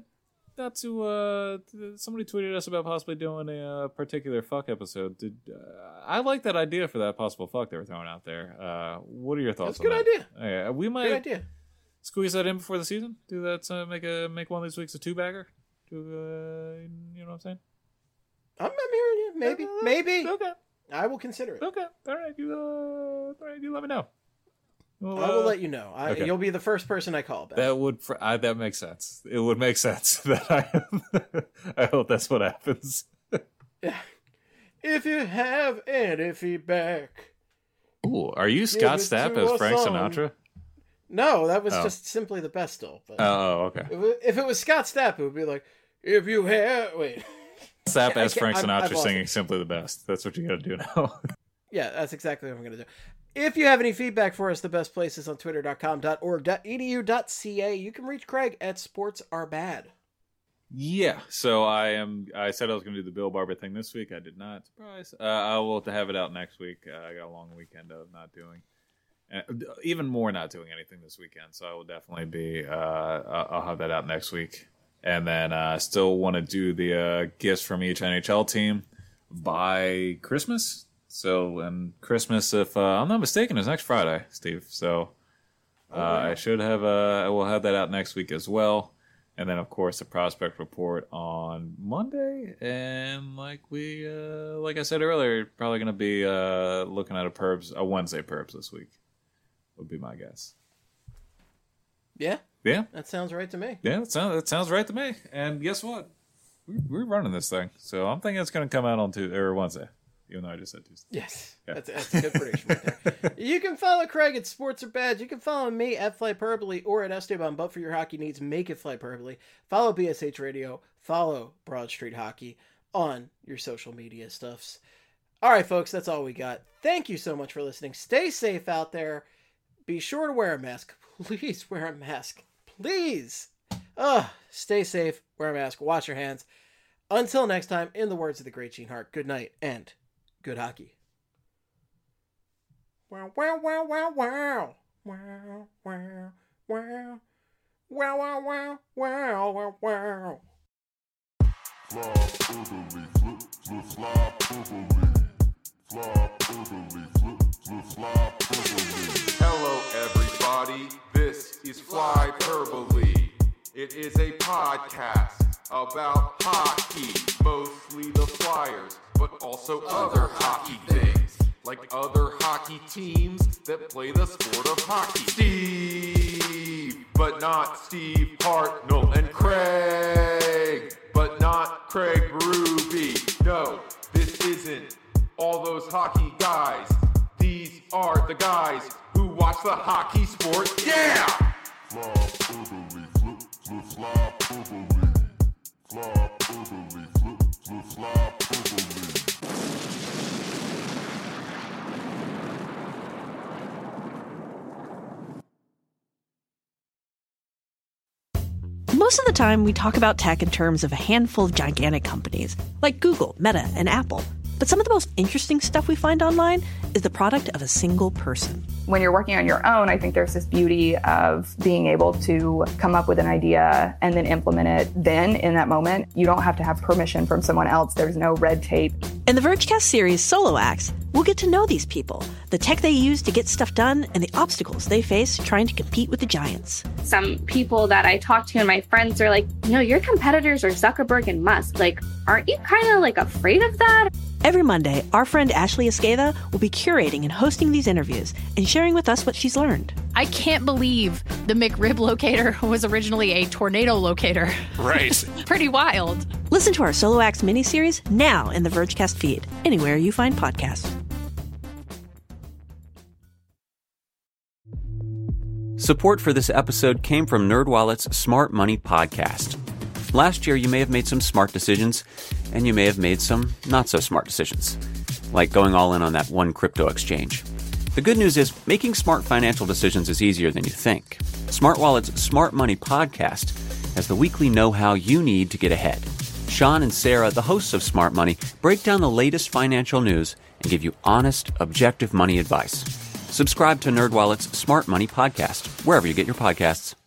somebody tweeted us about possibly doing a particular fuck episode? I like that idea for that possible fuck they were throwing out there. What are your thoughts? That's a good idea. Yeah, we might. Good idea. Squeeze that in before the season. Do that. Make one of these weeks a 2-bagger. You know what I'm saying? I'm hearing you. Maybe. Okay. I will consider it. Okay. All right. You let me know. Well, I will let you know. Okay. You'll be the first person I call back. That makes sense. It would make sense that I hope that's what happens. Yeah. If you have any feedback. Ooh, are you Scott Stapp as Frank Sinatra? No, that was just simply the best still. But okay. If it was Scott Stapp, it would be like, if you have... Wait. Stapp as Frank Sinatra singing Simply the Best. That's what you got to do now. Yeah, that's exactly what I'm going to do. If you have any feedback for us, the best place is on twitter.com.org.edu.ca. You can reach Craig at sportsarbad. Yeah, so I said I was going to do the Bill Barber thing this week. I did not. Surprise. I will have to have it out next week. I got a long weekend of not doing And even more not doing anything this weekend. So I will definitely be, I'll have that out next week. And then I still want to do the gifts from each NHL team by Christmas. So, and Christmas, if I'm not mistaken, is next Friday, Steve. So I should have, I will have that out next week as well. And then, of course, the prospect report on Monday. And like I said earlier, probably going to be looking at a Wednesday Perbs this week. Would be my guess. Yeah? Yeah. That sounds right to me. Yeah, that sounds right to me. And guess what? We're running this thing. So I'm thinking it's going to come out on Tuesday or Wednesday. Even though I just said Tuesday. Yes. Yeah. That's a good prediction right there. You can follow Craig at Sports or Badge. You can follow me at Flyperbole or at Esteban. But for your hockey needs, make it Flyperbole. Follow BSH Radio. Follow Broad Street Hockey on your social media stuffs. All right, folks. That's all we got. Thank you so much for listening. Stay safe out there. Be sure to wear a mask. Please wear a mask. Please. Stay safe. Wear a mask. Wash your hands. Until next time, in the words of the great Gene Hart, good night and good hockey. Wow, wow, wow, wow, wow. Wow, wow, wow. Wow, wow, wow, wow, wow, wow. Hello, everybody. This is Flyperbole. It is a podcast about hockey, mostly the Flyers, but also other hockey things, like other hockey teams that play the sport of hockey. Steve, but not Steve Hartnell, and Craig, but not Craig Berube. No, this isn't all those hockey guys. These are the guys who watch the hockey sport. Yeah! Most of the time, we talk about tech in terms of a handful of gigantic companies, like Google, Meta, and Apple. But some of the most interesting stuff we find online is the product of a single person. When you're working on your own, I think there's this beauty of being able to come up with an idea and then implement it then in that moment. You don't have to have permission from someone else. There's no red tape. In the Vergecast series Solo Acts, we'll get to know these people, the tech they use to get stuff done, and the obstacles they face trying to compete with the giants. Some people that I talk to and my friends are like, your competitors are Zuckerberg and Musk. Like, aren't you kind of like afraid of that? Every Monday, our friend Ashley Esqueda will be curating and hosting these interviews and sharing with us what she's learned. I can't believe the McRib locator was originally a tornado locator. Right. Pretty wild. Listen to our Solo Acts miniseries now in the Vergecast feed, anywhere you find podcasts. Support for this episode came from NerdWallet's Smart Money Podcast. Last year, you may have made some smart decisions, and you may have made some not-so-smart decisions, like going all in on that one crypto exchange. The good news is, making smart financial decisions is easier than you think. SmartWallet's Smart Money Podcast has the weekly know-how you need to get ahead. Sean and Sarah, the hosts of Smart Money, break down the latest financial news and give you honest, objective money advice. Subscribe to NerdWallet's Smart Money Podcast, wherever you get your podcasts.